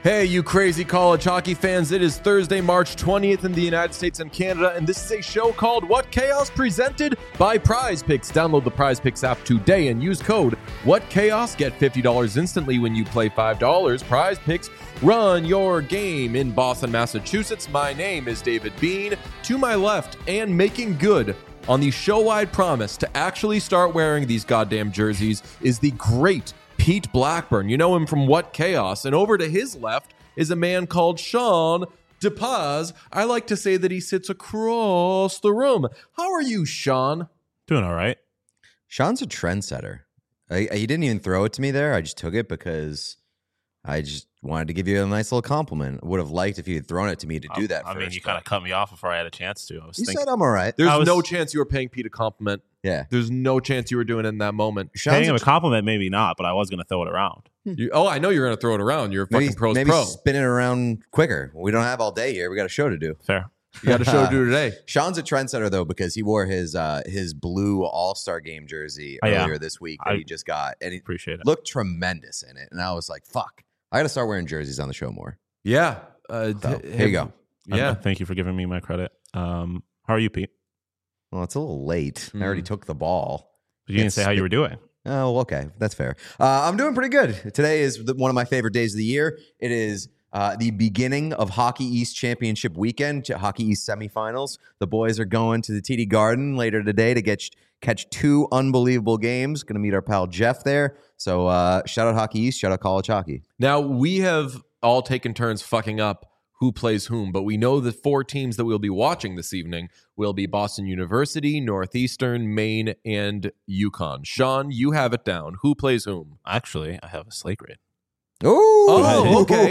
Hey, you crazy college hockey fans. It is Thursday, March 20th in the United States and Canada, and this is a show called What Chaos, presented by Prize Picks. Download the Prize Picks app today and use code What Chaos. Get $50 instantly when you play $5. Prize Picks, run your game in Boston, Massachusetts. My name is David Bean. To my left, and making good on the show-wide promise to actually start wearing these goddamn jerseys, is the great Pete Blackburn. You know him from What Chaos. And over to his left is a man called Sean DePaz. I like to say that he sits across the room. How are you, Sean? Doing all right. Sean's a trendsetter. He didn't even throw it to me there. I just took it because I just wanted to give you a nice little compliment. I would have liked if you had thrown it to me to do that I first. mean, you kind of cut me off before I had a chance to. You said I'm all right. There's no chance you were paying Pete a compliment. Yeah. There's no chance you were doing it in that moment. Paying him a compliment, maybe not, but I was going to throw it around. I know you're going to throw it around. You're a fucking pro. Maybe spin it around quicker. We don't have all day here. We got a show to do. Fair. You got a show to do today. Sean's a trendsetter, though, because he wore his blue All-Star Game jersey earlier this week that he just got. And he appreciate it. Looked tremendous in it. And I was like, fuck, I got to start wearing jerseys on the show more. Yeah. So, here you go. Yeah. Thank you for giving me my credit. How are you, Pete? Well, it's a little late. I already took the ball. You didn't say how you were doing. Oh, okay. That's fair. I'm doing pretty good. Today is one of my favorite days of the year. It is the beginning of Hockey East Championship weekend, Hockey East semifinals. The boys are going to the TD Garden later today to catch two unbelievable games. Going to meet our pal Jeff there. So shout out Hockey East, shout out college hockey. Now, we have all taken turns fucking up who plays whom, but we know the four teams that we'll be watching this evening will be Boston University, Northeastern, Maine, and UConn. Sean, you have it down. Who plays whom? Actually, I have a slate grade. Oh, okay.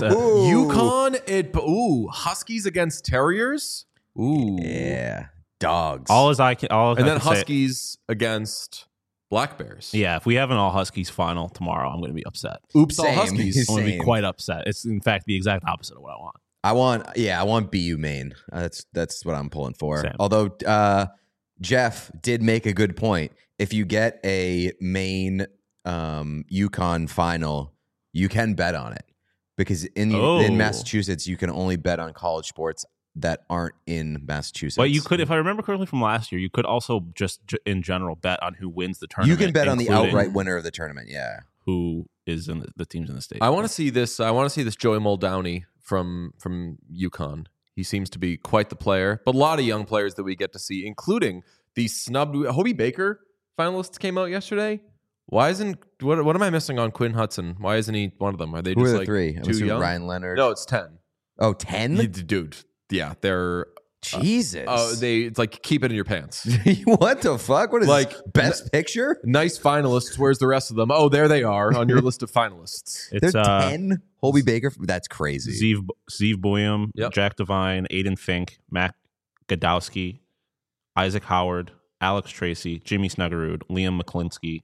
UConn, Huskies against Terriers. Ooh. Yeah, dogs. And then Huskies against Black Bears. Yeah, if we have an all Huskies final tomorrow, I'm going to be upset. Oops, all Huskies. I'm going to be quite upset. It's in fact the exact opposite of what I want. I want BU Maine. That's what I'm pulling for. Same. Although Jeff did make a good point. If you get a Maine UConn final, you can bet on it because in Massachusetts you can only bet on college sports that aren't in Massachusetts. But you could, if I remember correctly from last year, you could also just in general bet on who wins the tournament. You can bet on the outright winner of the tournament. Yeah, who is in the teams in the state. I want to see this. I want to see this Joey Muldowney from UConn. He seems to be quite the player, but a lot of young players that we get to see, including the snubbed Hobie Baker finalists came out yesterday. Why isn't what am I missing on Quinn Hudson? Why isn't he one of them? Are they who just are the like three? too young? Ryan Leonard. No, it's 10. Oh, 10? Dude. Yeah, they're Jesus. It's like keep it in your pants. What the fuck? What is like this? Best picture? Nice finalists. Where's the rest of them? Oh, there they are on your list of finalists. It's There's 10 Hobie Baker. That's crazy. Zeev Boyum, Yep. Jack Devine, Aiden Fink, Matt Godowski, Isaac Howard, Alex Tracy, Jimmy Snuggerud, Liam McClinsky,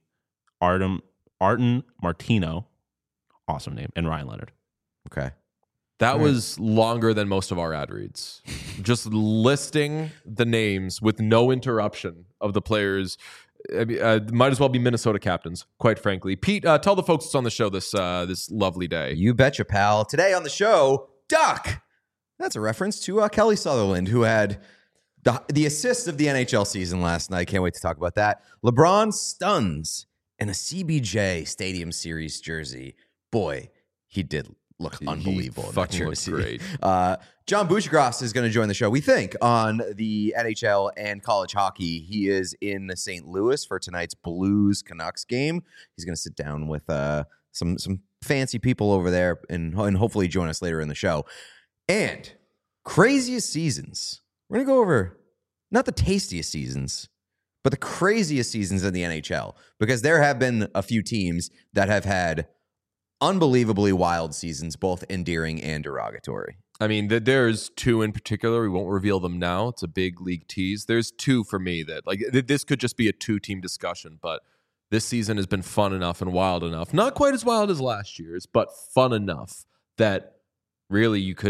Arden Martino, awesome name, and Ryan Leonard. Okay. That was longer than most of our ad reads. Just listing the names with no interruption of the players. Might as well be Minnesota captains, quite frankly. Pete, tell the folks what's on the show this lovely day. You betcha, pal. Today on the show, Duck. That's a reference to Kelly Sutherland, who had the assist of the NHL season last night. Can't wait to talk about that. LeBron stuns in a CBJ Stadium Series jersey. Boy, he did look unbelievable in that jersey. Great. John Bushgrass is going to join the show, we think, on the NHL and college hockey. He is in St. Louis for tonight's Blues Canucks game. He's going to sit down with some fancy people over there and hopefully join us later in the show. And craziest seasons. We're going to go over not the tastiest seasons, but the craziest seasons in the NHL, because there have been a few teams that have had unbelievably wild seasons, both endearing and derogatory. I mean, there's two in particular. We won't reveal them now. It's a big league tease. There's two for me that, like, this could just be a two-team discussion, but this season has been fun enough and wild enough. Not quite as wild as last year's, but fun enough that really you could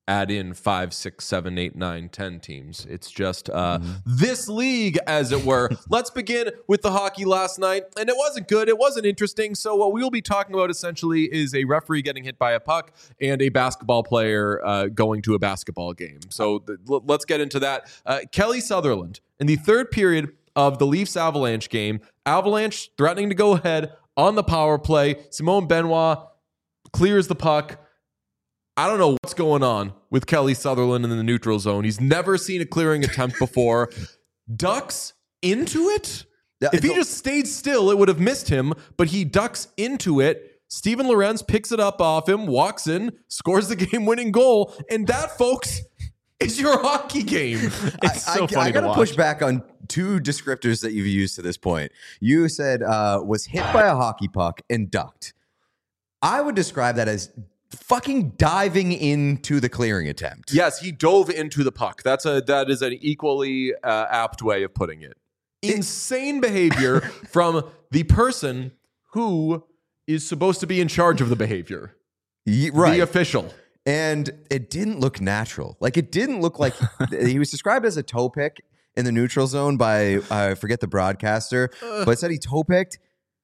add in 5, 6, 7, 8, 9, 10 teams. It's just this league, as it were. Let's begin with the hockey last night. And it wasn't good. It wasn't interesting. So what we'll be talking about essentially is a referee getting hit by a puck and a basketball player going to a basketball game. So let's get into that. Kelly Sutherland, in the third period of the Leafs-Avalanche game, Avalanche threatening to go ahead on the power play. Simone Benoit clears the puck. I don't know what's going on with Kelly Sutherland in the neutral zone. He's never seen a clearing attempt before. Ducks into it? If he just stayed still, it would have missed him, but he ducks into it. Steven Lorenz picks it up off him, walks in, scores the game-winning goal, and that, folks, is your hockey game. It's so funny I got to to push back on two descriptors that you've used to this point. You said was hit by a hockey puck and ducked. I would describe that as fucking diving into the clearing attempt. Yes, he dove into the puck. That is an equally apt way of putting it. Insane behavior from the person who is supposed to be in charge of the behavior. Right. The official. And it didn't look natural. Like, it didn't look like he was described as a toe pick in the neutral zone by, I forget the broadcaster, but it said he toe picked.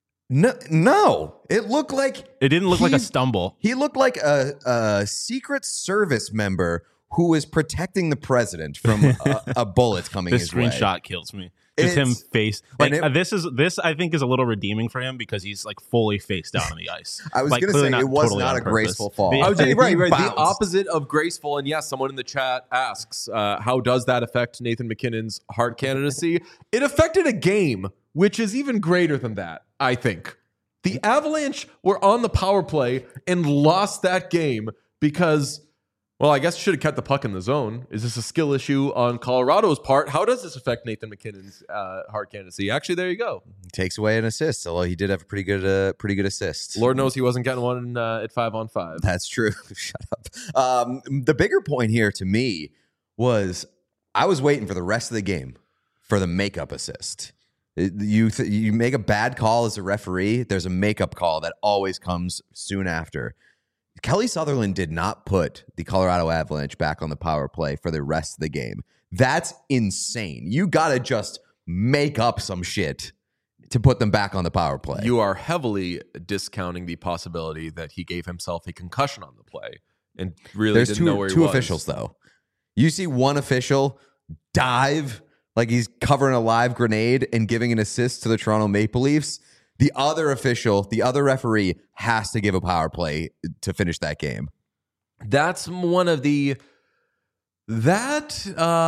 No, it looked like it didn't look like a stumble. He looked like a Secret Service member who was protecting the president from a bullet coming his way. This screenshot kills me. Just him face this I think is a little redeeming for him because he's like fully face down on the ice. I was going to say it was not a graceful fall. I was right. The opposite of graceful. And yes, someone in the chat asks, how does that affect Nathan MacKinnon's Hart candidacy? It affected a game, which is even greater than that, I think. The Avalanche were on the power play and lost that game because, well, I guess should have kept the puck in the zone. Is this a skill issue on Colorado's part? How does this affect Nathan MacKinnon's Hart candidacy? Actually, there you go. Takes away an assist, although he did have a pretty good assist. Lord knows he wasn't getting one at 5-on-5. That's true. Shut up. The bigger point here to me was I was waiting for the rest of the game for the makeup assist. You make a bad call as a referee, there's a makeup call that always comes soon after. Kelly Sutherland did not put the Colorado Avalanche back on the power play for the rest of the game. That's insane. You got to just make up some shit to put them back on the power play. You are heavily discounting the possibility that he gave himself a concussion on the play and really didn't know where he was. There's two officials, though. You see one official dive like he's covering a live grenade and giving an assist to the Toronto Maple Leafs. The other official, the other referee, has to give a power play to finish that game. That's one of the... Is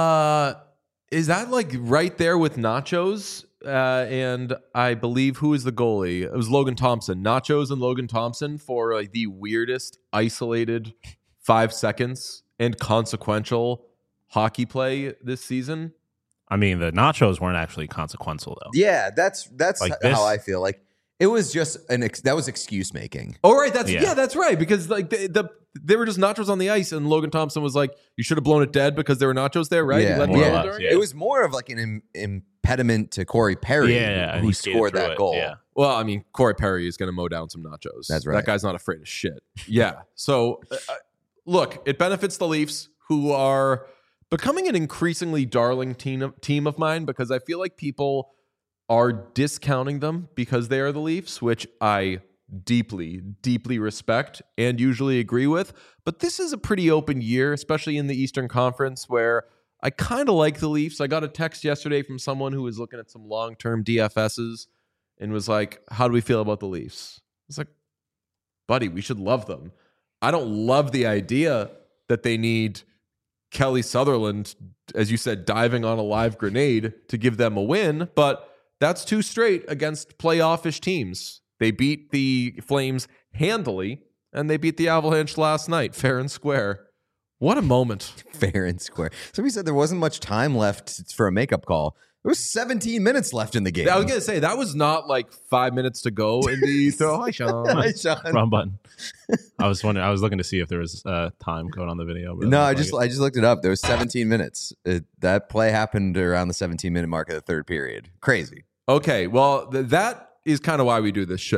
that like right there with Nachos? And I believe, who is the goalie? It was Logan Thompson. Nachos and Logan Thompson for like the weirdest, isolated 5 seconds and consequential hockey play this season. I mean, the nachos weren't actually consequential, though. Yeah, that's like how I feel. Like it was just that was excuse making. Oh, right, that's right. Because like they were just nachos on the ice, and Logan Thompson was like, "You should have blown it dead because there were nachos there, right?" Yeah, It was more of like an impediment to Corey Perry, who scored that goal. Yeah. Well, I mean, Corey Perry is going to mow down some nachos. That's right. That guy's not afraid of shit. Yeah. So, look, it benefits the Leafs, who are becoming an increasingly darling team of mine, because I feel like people are discounting them because they are the Leafs, which I deeply, deeply respect and usually agree with. But this is a pretty open year, especially in the Eastern Conference, where I kind of like the Leafs. I got a text yesterday from someone who was looking at some long-term DFSs and was like, how do we feel about the Leafs? I was like, buddy, we should love them. I don't love the idea that they need Kelly Sutherland, as you said, diving on a live grenade to give them a win, but that's too straight against playoff-ish teams. They beat the Flames handily, and they beat the Avalanche last night, fair and square. What a moment. Fair and square. Somebody said there wasn't much time left for a makeup call. There was 17 minutes left in the game. I was going to say, that was not like 5 minutes to go in the throw. Hi, Sean. Hi, Sean. Wrong button. I was looking to see if there was time code on the video. But no, I just looked it up. There was 17 minutes. That play happened around the 17-minute mark of the third period. Crazy. Okay, well, that is kind of why we do this show.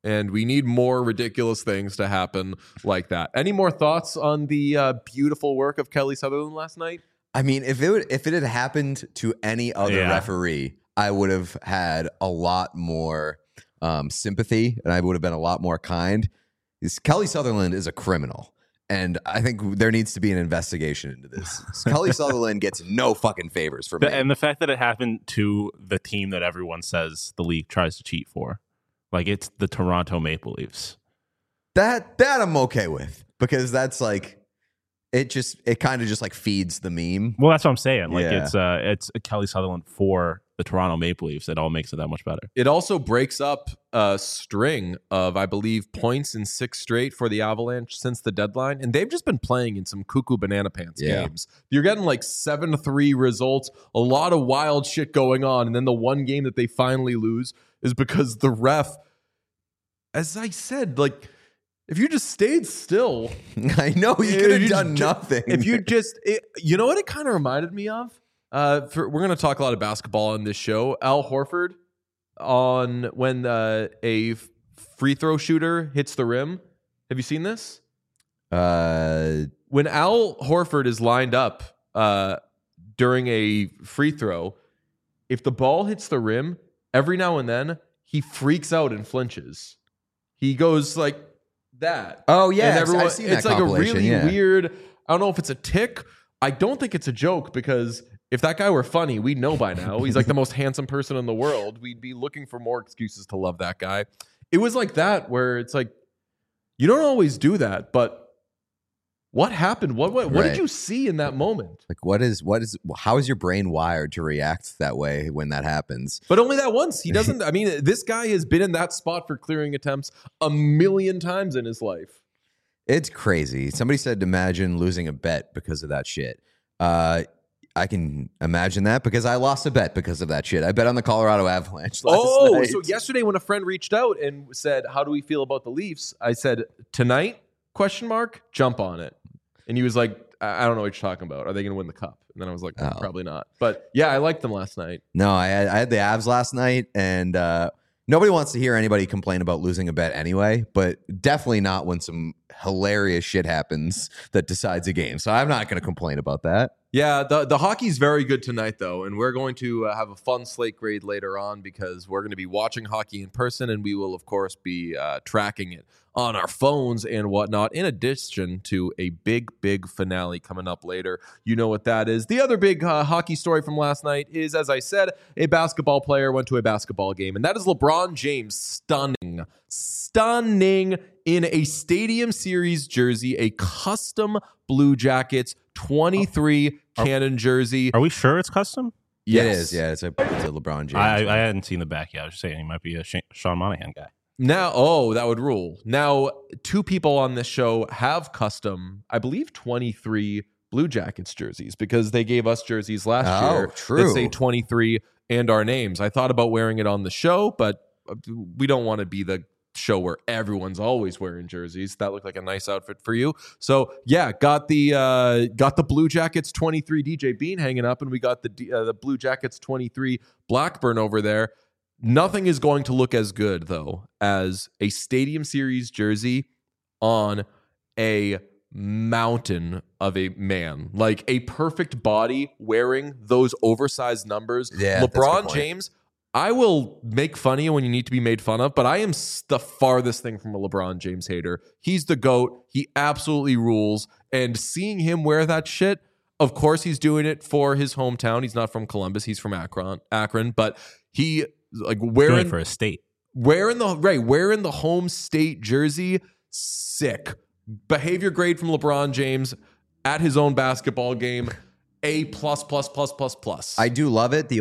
And we need more ridiculous things to happen like that. Any more thoughts on the beautiful work of Kelly Sutherland last night? I mean, if it had happened to any other referee, I would have had a lot more sympathy, and I would have been a lot more kind. Kelly Sutherland is a criminal, and I think there needs to be an investigation into this. Kelly Sutherland gets no fucking favors from me. And the fact that it happened to the team that everyone says the league tries to cheat for, like it's the Toronto Maple Leafs. That I'm okay with, because that's like it kind of just like feeds the meme. Well, that's what I'm saying. Like Yeah. it's Kelly Sutherland for the Toronto Maple Leafs. It all makes it that much better. It also breaks up a string of, I believe, points in 6 straight for the Avalanche since the deadline. And they've just been playing in some cuckoo banana pants games. You're getting like 7-3 results, a lot of wild shit going on. And then the one game that they finally lose is because the ref, as I said, like, if you just stayed still. I know, you could have done nothing. If you just, you know what it kind of reminded me of? We're going to talk a lot of basketball on this show. Al Horford on when a free throw shooter hits the rim. Have you seen this? When Al Horford is lined up during a free throw, if the ball hits the rim, every now and then he freaks out and flinches. He goes like that. Oh yeah, and everyone, I've seen that it's like a really compilation, weird. I don't know if it's a tick. I don't think it's a joke, because if that guy were funny, we'd know by now. He's like the most handsome person in the world. We'd be looking for more excuses to love that guy. It was like that, where it's like, you don't always do that, but what happened? What did you see in that moment? Like, how is your brain wired to react that way when that happens? But only that once. He doesn't. I mean, this guy has been in that spot for clearing attempts 1,000,000 times in his life. It's crazy. Somebody said, imagine losing a bet because of that shit. I can imagine that, because I lost a bet because of that shit. I bet on the Colorado Avalanche last night. So yesterday when a friend reached out and said, how do we feel about the Leafs? I said, tonight, ? Jump on it. And he was like, I don't know what you're talking about. Are they going to win the cup? And then I was like, probably not. But yeah, I liked them last night. No, I had the Avs last night, and nobody wants to hear anybody complain about losing a bet anyway, but definitely not when some hilarious shit happens that decides a game. So I'm not going to complain about that. Yeah, the hockey's very good tonight, though, and we're going to have a fun slate grade later on, because we're going to be watching hockey in person, and we will, of course, be tracking it on our phones and whatnot, in addition to a big finale coming up later. You know what that is. The other big hockey story from last night is, as I said, a basketball player went to a basketball game, and that is LeBron James stunning in a Stadium Series jersey, a custom Blue Jackets 23 Cannon jersey. Are we sure it's custom? Yes. It is. Yeah, it's a LeBron James. I hadn't seen the back yet. I was just saying he might be a Sean Monahan guy. Now, that would rule. Now, 2 people on this show have custom, I believe, 23 Blue Jackets jerseys, because they gave us jerseys last year true. that say 23 and our names. I thought about wearing it on the show, but we don't want to be the show where everyone's always wearing jerseys. That looked like a nice outfit for you. So yeah, got the Blue Jackets 23 DJ Bean hanging up, and we got the Blue Jackets 23 Blackburn over there. Nothing is going to look as good, though, as a Stadium Series jersey on a mountain of a man. Like a perfect body wearing those oversized numbers. Yeah, that's a good LeBron point. James, I will make fun of you when you need to be made fun of, but I am the farthest thing from a LeBron James hater. He's the GOAT. He absolutely rules. And seeing him wear that shit, of course he's doing it for his hometown. He's not from Columbus. He's from Akron. But he... like Doing it for a state. wearing the home state jersey, sick. Behavior grade from LeBron James at his own basketball game, A+++++. I do love it. The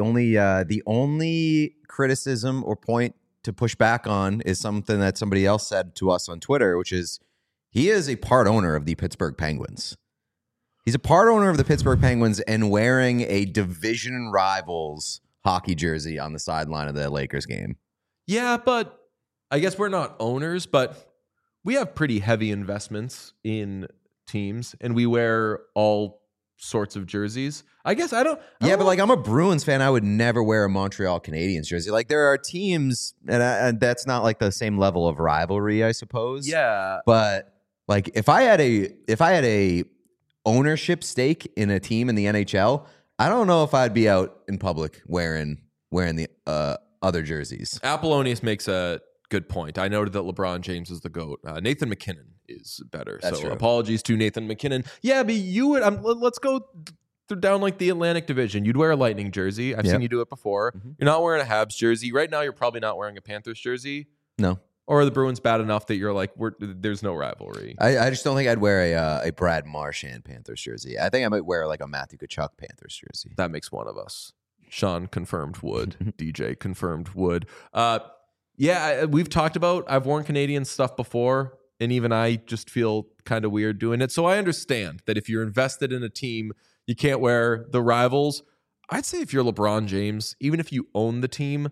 only criticism or point to push back on is something that somebody else said to us on Twitter, which is he is a part owner of the Pittsburgh Penguins. He's a part owner of the Pittsburgh Penguins and wearing a division rivals hockey jersey on the sideline of the Lakers game. Yeah, but I guess we're not owners, but we have pretty heavy investments in teams, and we wear all sorts of jerseys. I guess I don't Yeah, but know. like I'm a Bruins fan. I would never wear a Montreal Canadiens jersey. Like there are teams, and that's not like the same level of rivalry, I suppose. Yeah. But like if I had a ownership stake in a team in the NHL, I don't know if I'd be out in public wearing the other jerseys. Apollonius makes a good point. I noted that LeBron James is the GOAT. Nathan McKinnon is better. That's so true. apologies to Nathan McKinnon. Yeah, but you would. Let's go down like the Atlantic Division. You'd wear a Lightning jersey. I've seen you do it before. Mhm. You're not wearing a Habs jersey right now. You're probably not wearing a Panthers jersey. No, Or are the Bruins bad enough that you're like, there's no rivalry? I just don't think I'd wear a Brad Marchand Panthers jersey. I think I might wear like a Matthew Tkachuk Panthers jersey. That makes one of us. Sean confirmed would. DJ confirmed would. Yeah, we've talked about, I've worn Canadian stuff before, and even I just feel kind of weird doing it. So I understand that if you're invested in a team, you can't wear the rivals. I'd say if you're LeBron James, even if you own the team,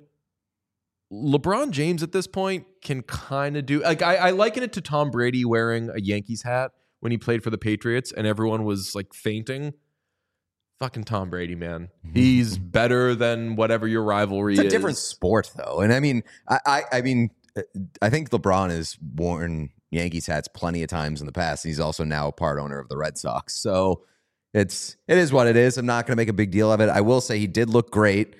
LeBron James at this point can kind of do, like, I liken it to Tom Brady wearing a Yankees hat when he played for the Patriots and everyone was like fainting. Fucking Tom Brady, man. He's better than whatever your rivalry is. It's a different sport, though, and I mean, I mean, I think LeBron has worn Yankees hats plenty of times in the past. And he's also now a part owner of the Red Sox, so it is what it is. I'm not going to make a big deal of it. I will say he did look great,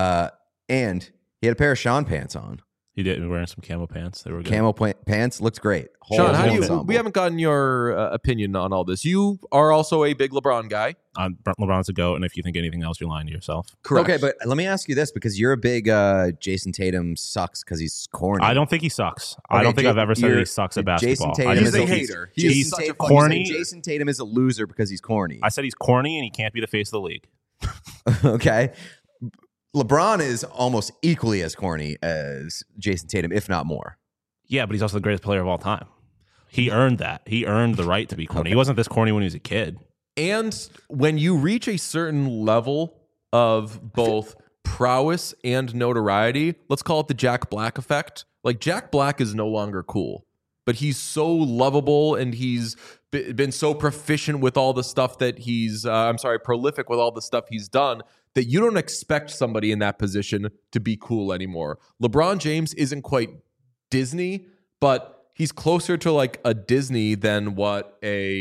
and he had a pair of Sean pants on. He did wearing some camo pants. They were good. Camo pants looked great. Sean, how do you? ensemble. We haven't gotten your opinion on all this. You are also a big LeBron guy. LeBron's a GOAT, and if you think anything else, you're lying to yourself. Correct. Okay, but let me ask you this, because you're a big Jason Tatum sucks because he's corny. I don't think he sucks. I Okay, don't think I've ever said you're- that he sucks at basketball. Jason Tatum I He's just a think hater. He's He's such a fucking corny. Jason Tatum is a loser because he's corny. I said he's corny and he can't be the face of the league. Okay. LeBron is almost equally as corny as Jason Tatum, if not more. Yeah, but he's also the greatest player of all time. He earned that. He earned the right to be corny. Okay. He wasn't this corny when he was a kid. And when you reach a certain level of both prowess and notoriety, let's call it the Jack Black effect. Like Jack Black is no longer cool, but he's so lovable and he's been so proficient with all the stuff that prolific with all the stuff he's done that you don't expect somebody in that position to be cool anymore. LeBron James isn't quite Disney, but he's closer to like a Disney than what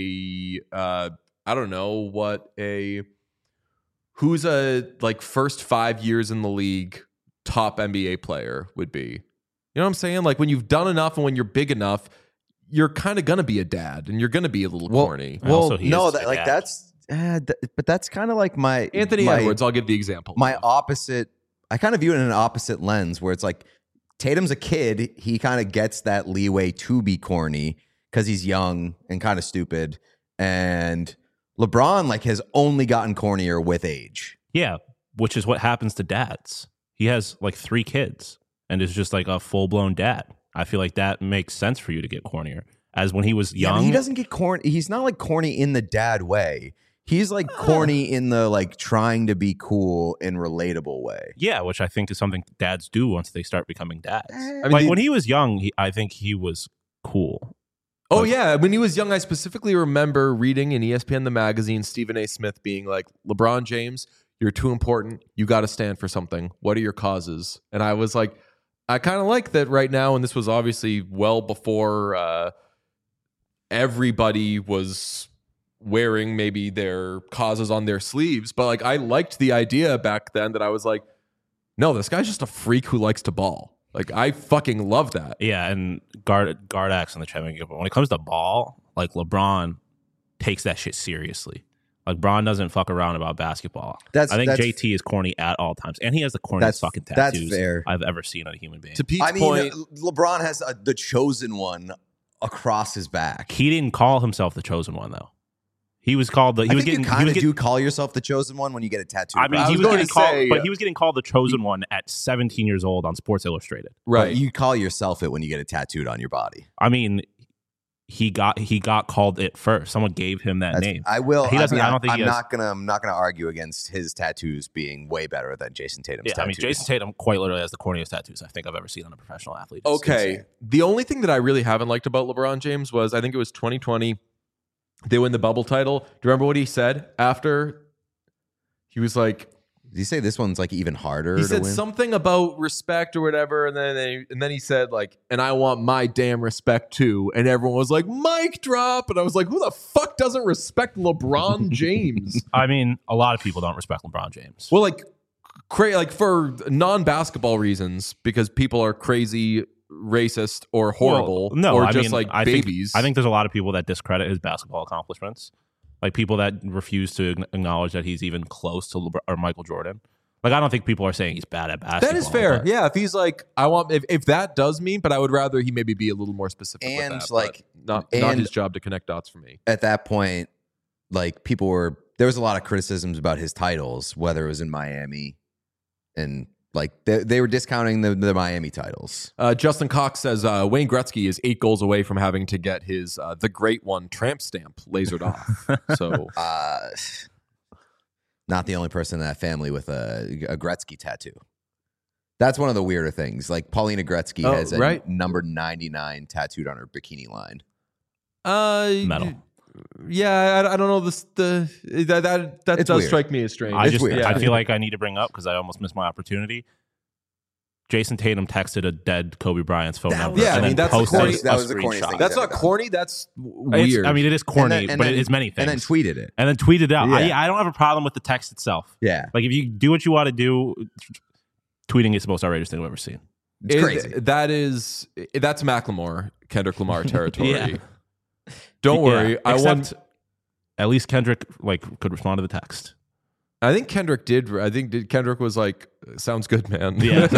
who's a like first 5 years in the league top NBA player would be. You know what I'm saying? Like when you've done enough and when you're big enough, you're kind of going to be a dad and you're going to be a little corny. And also he no, is a dad. but that's kind of like my Anthony my, Edwards, I'll give the example. My opposite. I kind of view it in an opposite lens where it's like Tatum's a kid. He kind of gets that leeway to be corny because he's young and kind of stupid. And LeBron like has only gotten cornier with age. Yeah, which is what happens to dads. He has like 3 kids and is just like a full-blown dad. I feel like that makes sense for you to get cornier. As when he was Yeah, young. but he doesn't get corny. He's not like corny in the dad way. He's like corny in the like trying to be cool and relatable way. Yeah, which I think is something dads do once they start becoming dads. I mean, Like when he was young, I think he was cool. Oh, yeah. When he was young, I specifically remember reading in ESPN the magazine, Stephen A. Smith being like, LeBron James, you're too important. You got to stand for something. What are your causes? And I was like, I kind of like that right now. And this was obviously well before everybody was wearing maybe their causes on their sleeves. But like, I liked the idea back then that I was like, no, this guy's just a freak who likes to ball. Like, I fucking love that. Yeah, and Gardax in the championship. But when it comes to ball, like LeBron takes that shit seriously. Like Bron doesn't fuck around about basketball. I think JT is corny at all times, and he has the corniest fucking tattoos I've ever seen on a human being. To Pete's point, LeBron has the chosen one across his back. He didn't call himself the chosen one though. He was called the. You kind of do call yourself the chosen one when you get a tattoo. I mean, he was getting called the chosen one at 17 years old on Sports Illustrated. right? But you call yourself it when you get it tattooed on your body. I mean, he got called it first. Someone gave him that name. I will. He doesn't. I don't think I'm he has, not gonna argue against his tattoos being way better than Jason Tatum's tattoos. I mean, Jason Tatum quite literally has the corniest tattoos I think I've ever seen on a professional athlete. It's Okay. insane. The only thing that I really haven't liked about LeBron James was I think it was 2020. they win the bubble title. Do you remember what he said after? He was like, Did you say this one's like even harder? he to said win? something about respect or whatever, and then he said like, and I want my damn respect too. And everyone was like, mic drop. And I was like, who the fuck doesn't respect LeBron James? I mean, a lot of people don't respect LeBron James. Well, like for non-basketball reasons, because people are crazy, racist, or horrible, Well, no, or I just mean, like I babies. I think there's a lot of people that discredit his basketball accomplishments, like people that refuse to acknowledge that he's even close to LeBron or Michael Jordan. Like, I don't think people are saying he's bad at basketball. that is fair. but- Yeah, if he's like, I want, if that does mean, but I would rather he maybe be a little more specific. And, with that, like, but not and- his job to connect dots for me. At that point, like there was a lot of criticisms about his titles, whether it was in Miami, and like they were discounting the Miami titles. Justin Cox says Wayne Gretzky is 8 goals away from having to get his the Great One tramp stamp lasered off. So Not the only person in that family with a Gretzky tattoo. That's one of the weirder things. Like Paulina Gretzky has a right. number 99 tattooed on her bikini line. Metal. Yeah, I don't know that It's does weird. strike me as strange. I It's weird. I feel like I need to bring up, because I almost missed my opportunity. Jason Tatum texted a dead Kobe Bryant's phone number. yeah, I and mean, then that's posted corny. That was the corniest screenshot. thing. That's He's not ever done. corny. That's It's- weird. I mean, it is corny, And but then- it is many things. And then tweeted it. And then tweeted out. Yeah. I don't have a problem with the text itself. Yeah. Like, if you do what you want to do, tweeting is the most outrageous thing I've ever seen. It's crazy. That's Macklemore, Kendrick Lamar territory. Yeah. Don't worry. Yeah, I except at least Kendrick could respond to the text. I think Kendrick did. Kendrick was like, "Sounds good, man." Yeah.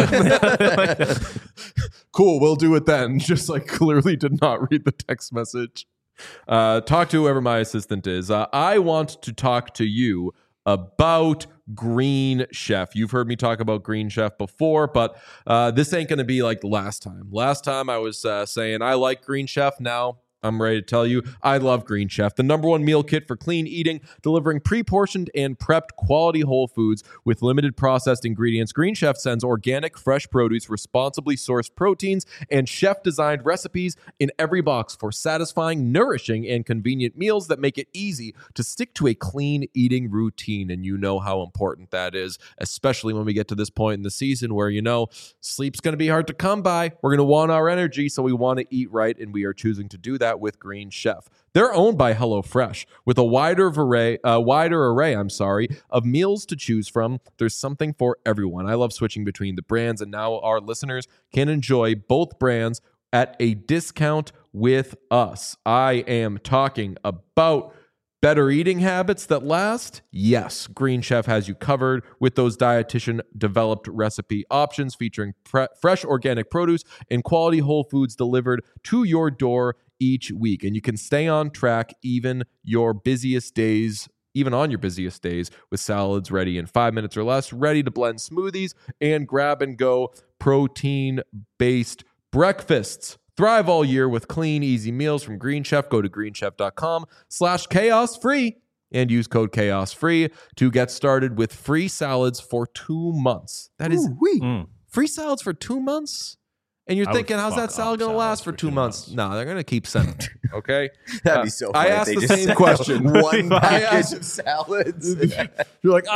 Cool. We'll do it then. Just like clearly did not read the text message. Talk to whoever my assistant is. I want to talk to you about Green Chef. You've heard me talk about Green Chef before, but this ain't going to be like the last time. Last time I was saying I like Green Chef. Now I'm ready to tell you I love Green Chef, the #1 meal kit for clean eating, delivering pre-portioned and prepped quality whole foods with limited processed ingredients. Green Chef sends organic, fresh produce, responsibly sourced proteins, and chef-designed recipes in every box for satisfying, nourishing, and convenient meals that make it easy to stick to a clean eating routine. And you know how important that is, especially when we get to this point in the season where, sleep's going to be hard to come by. We're going to want our energy, so we want to eat right, and we are choosing to do that with Green Chef. They're owned by HelloFresh with a wider array of meals to choose from. There's something for everyone. I love switching between the brands, and now our listeners can enjoy both brands at a discount with us. I am talking about better eating habits that last? Yes, Green Chef has you covered with those dietitian-developed recipe options featuring fresh organic produce and quality whole foods delivered to your door each week. And you can stay on track even on your busiest days with salads ready in 5 minutes or less, ready to blend smoothies and grab-and-go protein-based breakfasts. Thrive all year with clean, easy meals from Green Chef. Go to greenchef.com/chaosfree and use code chaosfree to get started with free salads for 2 months. That is free salads for 2 months? And you're I would thinking, how's that fuck salad up going to last salads for 2 months? No, they're going to keep sending it. Okay? That'd be so funny. I if asked they the just same sent question. out One I package asked- of salads. You're like,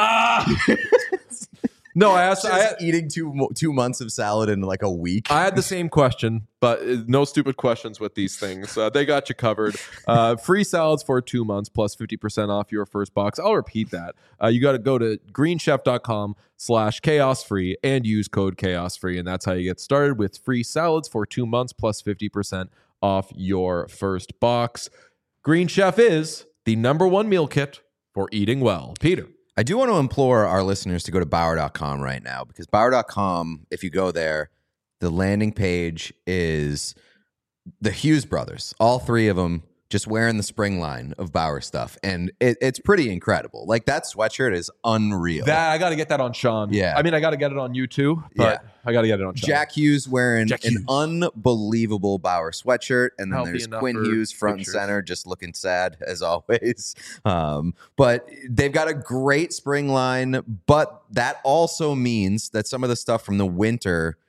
No, I asked. Just eating 2 months of salad in like a week. I had the same question, but no stupid questions with these things. They got you covered. Free salads for 2 months plus 50% off your first box. I'll repeat that. You got to go to greenchef.com/chaosfree and use code chaosfree. And that's how you get started with free salads for 2 months plus 50% off your first box. Green Chef is the #1 meal kit for eating well. Peter. I do want to implore our listeners to go to Bauer.com right now, because Bauer.com, if you go there, the landing page is the Hughes brothers, all three of them just wearing the spring line of Bauer stuff. And it's pretty incredible. Like, that sweatshirt is unreal. I got to get that on Sean. Yeah. I mean, I got to get it on you too, but I got to get it on Sean. Jack Hughes wearing Jack Hughes. an unbelievable Bauer sweatshirt, and then Healthy there's enough Quinn for Hughes front pictures. and center, just looking sad as always. But they've got a great spring line, but that also means that some of the stuff from the winter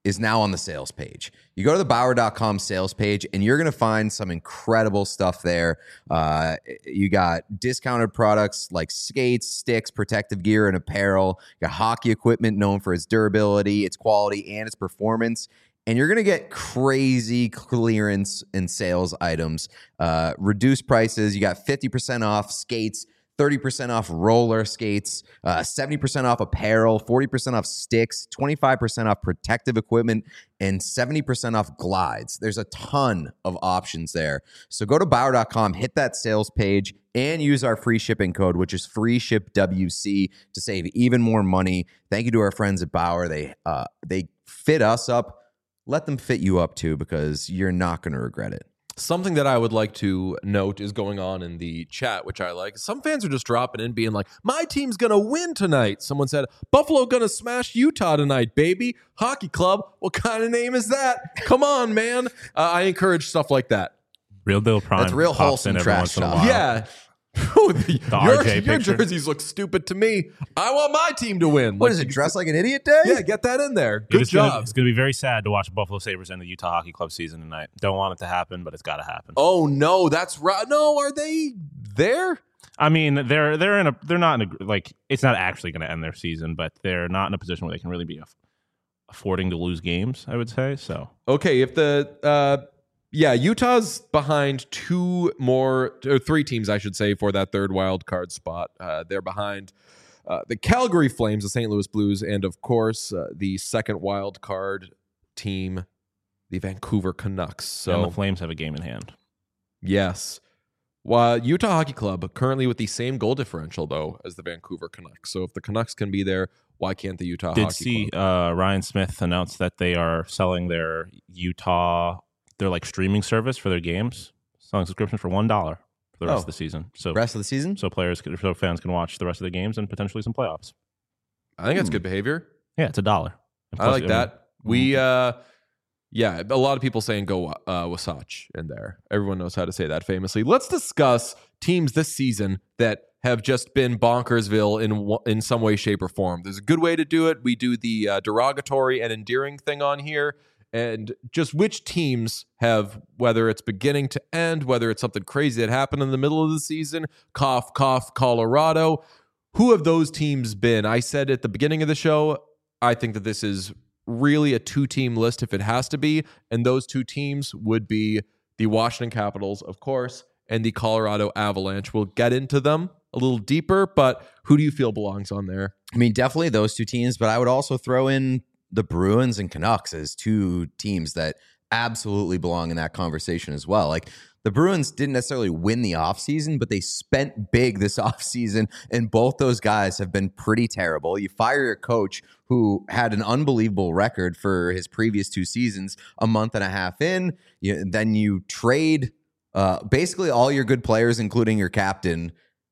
is now on the sales page. You go to the Bauer.com sales page and you're going to find some incredible stuff there. You got discounted products like skates, sticks, protective gear, and apparel. You got hockey equipment known for its durability, its quality, and its performance. And you're going to get crazy clearance and sales items, reduced prices. You got 50% off skates, 30% off roller skates, 70% off apparel, 40% off sticks, 25% off protective equipment, and 70% off glides. There's a ton of options there. So go to Bauer.com, hit that sales page, and use our free shipping code, which is FreeShipWC, to save even more money. Thank you to our friends at Bauer. They fit us up. Let them fit you up too, because you're not going to regret it. Something that I would like to note is going on in the chat, which I like. Some fans are just dropping in being like, my team's going to win tonight. Someone said, Buffalo going to smash Utah tonight, baby. Hockey club. What kind of name is that? Come on, man. I encourage stuff like that. Real Deal Prime. That's real wholesome trash talk. Yeah. Your jerseys look stupid to me. I want my team to win. What is it, dress like an idiot day? Yeah, get that in there. Good job. It's going to be very sad to watch Buffalo Sabres end the Utah Hockey Club season tonight. Don't want it to happen, but it's got to happen. Oh no, that's right. No, are they there? I mean, they're not in a, like, it's not actually going to end their season, but they're not in a position where they can really be affording to lose games, I would say. So okay, if the Utah's behind three teams, I should say, for that third wild card spot. They're behind the Calgary Flames, the St. Louis Blues, and of course the second wild card team, the Vancouver Canucks. So and the Flames have a game in hand. Yes. Well, Utah Hockey Club currently with the same goal differential though as the Vancouver Canucks. So if the Canucks can be there, why can't the Utah Hockey Club? Ryan Smith announced that they are selling their their like streaming service for their games, selling subscription for $1 for the rest of the season. So rest of the season, so fans can watch the rest of the games and potentially some playoffs. I think that's good behavior. Yeah, it's $1. I like that. A lot of people saying go Wasatch in there. Everyone knows how to say that famously. Let's discuss teams this season that have just been bonkersville in some way, shape, or form. There's a good way to do it. We do the derogatory and endearing thing on here. And just which teams have, whether it's beginning to end, whether it's something crazy that happened in the middle of the season, cough, cough, Colorado. Who have those teams been? I said at the beginning of the show, I think that this is really a two-team list if it has to be. And those two teams would be the Washington Capitals, of course, and the Colorado Avalanche. We'll get into them a little deeper, but who do you feel belongs on there? I mean, definitely those two teams, but I would also throw in the Bruins and Canucks as two teams that absolutely belong in that conversation as well. Like the Bruins didn't necessarily win the offseason, but they spent big this offseason, and both those guys have been pretty terrible. You fire your coach who had an unbelievable record for his previous two seasons a month and a half in. Then you trade basically all your good players, including your captain,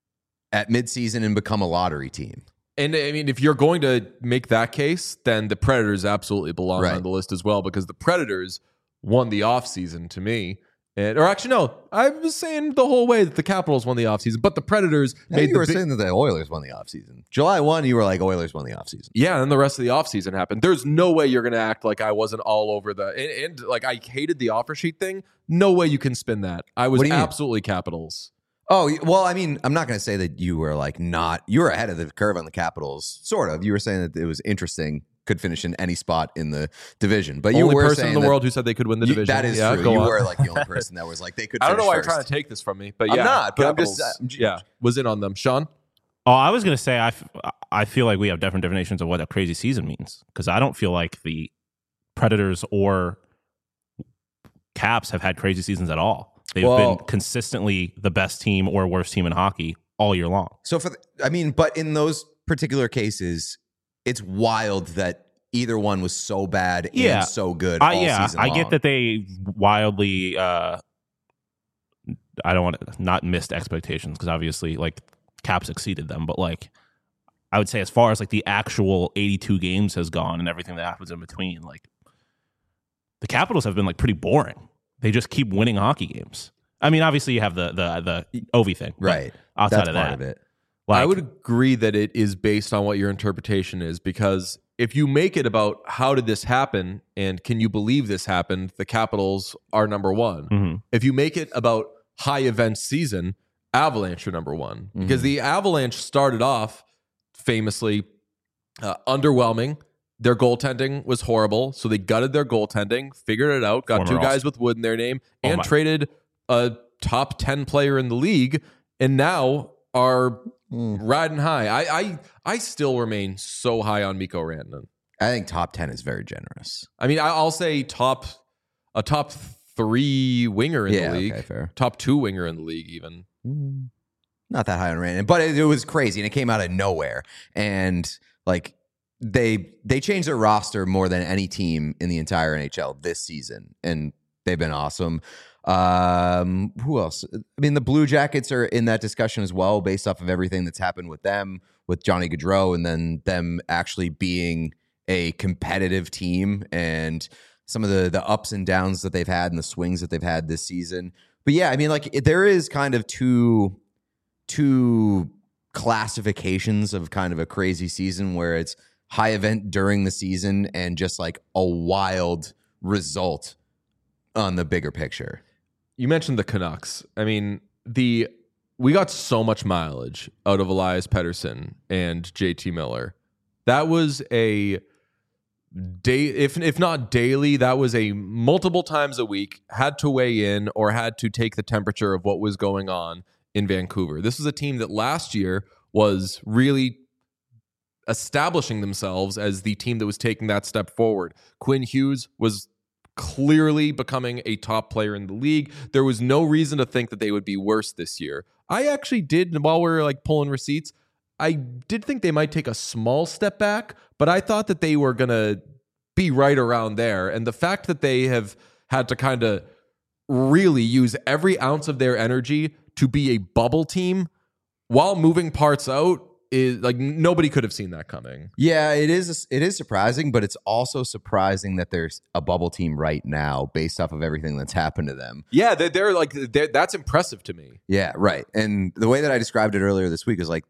at midseason and become a lottery team. And I mean, if you're going to make that case, then the Predators absolutely belong on the list as well, because the Predators won the offseason to me. Or actually, no, I was saying the whole way that the Capitals won the offseason, but the Predators made you were saying that the Oilers won the offseason. July 1, you were like, Oilers won the offseason. Yeah, and the rest of the offseason happened. There's no way you're going to act like I wasn't all over and like I hated the offer sheet thing. No way you can spin that. I was absolutely Capitals. Oh, well, I mean, I'm not going to say that you were you were ahead of the curve on the Capitals, sort of. You were saying that it was interesting, could finish in any spot in the division. But you only were person in the world who said they could win the division. That is true. You were like the only person that was like, they could finish I don't know why first. you're trying to take this from me, but I'm not, but Capitals, I'm was in on them. Sean? Oh, I was going to say, I feel like we have different definitions of what a crazy season means, because I don't feel like the Predators or Caps have had crazy seasons at all. They've been consistently the best team or worst team in hockey all year long. So but in those particular cases, it's wild that either one was so bad and so good all season long. I get that they wildly, I don't want to not missed expectations, because obviously like Caps exceeded them, but like I would say as far as like the actual 82 games has gone and everything that happens in between, like the Capitals have been like pretty boring. They just keep winning hockey games. I mean, obviously you have the Ovi thing, right? Outside That's of part that, of it. I would agree that it is based on what your interpretation is, because if you make it about how did this happen and can you believe this happened, the Capitals are number one. Mm-hmm. If you make it about high event season, Avalanche are number one. Because the Avalanche started off famously underwhelming. Their goaltending was horrible, so they gutted their goaltending, figured it out, got Former two guys All-Star. with wood in their name, and traded a top 10 player in the league, and now are riding high. I still remain so high on Mikko Rantanen. I think top 10 is very generous. I mean, I'll say a top 3 winger in the league. Okay, fair. Top 2 winger in the league, even. Not that high on Rantanen, but it was crazy, and it came out of nowhere. And like they changed their roster more than any team in the entire NHL this season, and they've been awesome. Who else? I mean, the Blue Jackets are in that discussion as well, based off of everything that's happened with them, with Johnny Gaudreau, and then them actually being a competitive team and some of the ups and downs that they've had and the swings that they've had this season. But yeah, I mean, like there is kind of two classifications of kind of a crazy season where it's high event during the season and just like a wild result on the bigger picture. You mentioned the Canucks. I mean, we got so much mileage out of Elias Pettersson and JT Miller. That was a day, if not daily, that was a multiple times a week, had to weigh in or had to take the temperature of what was going on in Vancouver. This was a team that last year was really establishing themselves as the team that was taking that step forward. Quinn Hughes was clearly becoming a top player in the league. There was no reason to think that they would be worse this year. I actually did, while we were like pulling receipts, I did think they might take a small step back, but I thought that they were going to be right around there. And the fact that they have had to kind of really use every ounce of their energy to be a bubble team while moving parts out is like nobody could have seen that coming. Yeah, it is surprising, but it's also surprising that there's a bubble team right now based off of everything that's happened to them. Yeah, that's impressive to me. Yeah, right. And the way that I described it earlier this week is like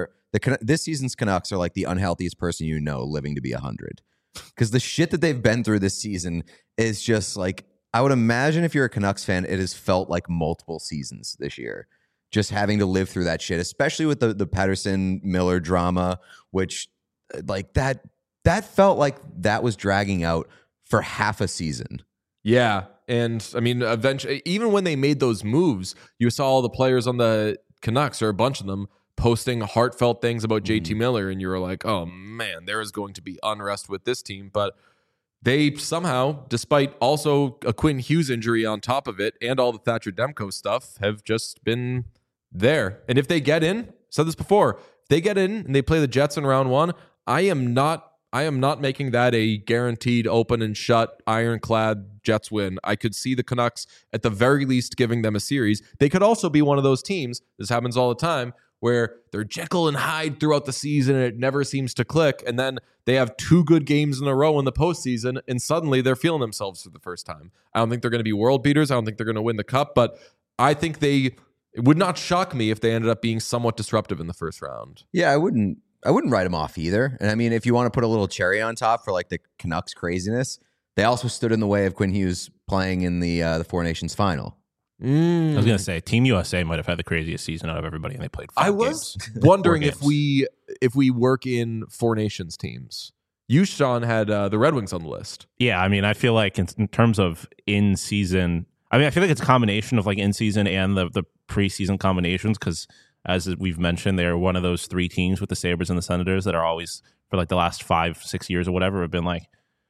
this season's Canucks are like the unhealthiest person you know living to be 100. Because the shit that they've been through this season is just like, I would imagine if you're a Canucks fan, it has felt like multiple seasons this year. Just having to live through that shit, especially with the Pettersson Miller drama, which like that felt like that was dragging out for half a season. Yeah. And I mean, eventually, even when they made those moves, you saw all the players on the Canucks, or a bunch of them, posting heartfelt things about JT Miller. And you were like, oh man, there is going to be unrest with this team. But they somehow, despite also a Quinn Hughes injury on top of it and all the Thatcher Demko stuff, have just been there. And if they get in, said this before, if they get in and they play the Jets in round one, I am not making that a guaranteed open and shut ironclad Jets win. I could see the Canucks at the very least giving them a series. They could also be one of those teams, this happens all the time, where they're Jekyll and Hyde throughout the season and it never seems to click. And then they have 2 good games in a row in the postseason and suddenly they're feeling themselves for the first time. I don't think they're going to be world beaters. I don't think they're going to win the cup, but I think it would not shock me if they ended up being somewhat disruptive in the first round. Yeah, I wouldn't write them off either. And I mean, if you want to put a little cherry on top for like the Canucks craziness, they also stood in the way of Quinn Hughes playing in the Four Nations final. I was going to say, Team USA might have had the craziest season out of everybody, and they played 5 games. games. Wondering if we work in Four Nations teams. You, Sean, had the Red Wings on the list. Yeah, I mean, I feel like in terms of in-season, I mean, I feel like it's a combination of like in-season and the preseason combinations, because as we've mentioned, they're one of those 3 teams with the Sabres and the Senators that are always, for like the last 5-6 years or whatever, have been like,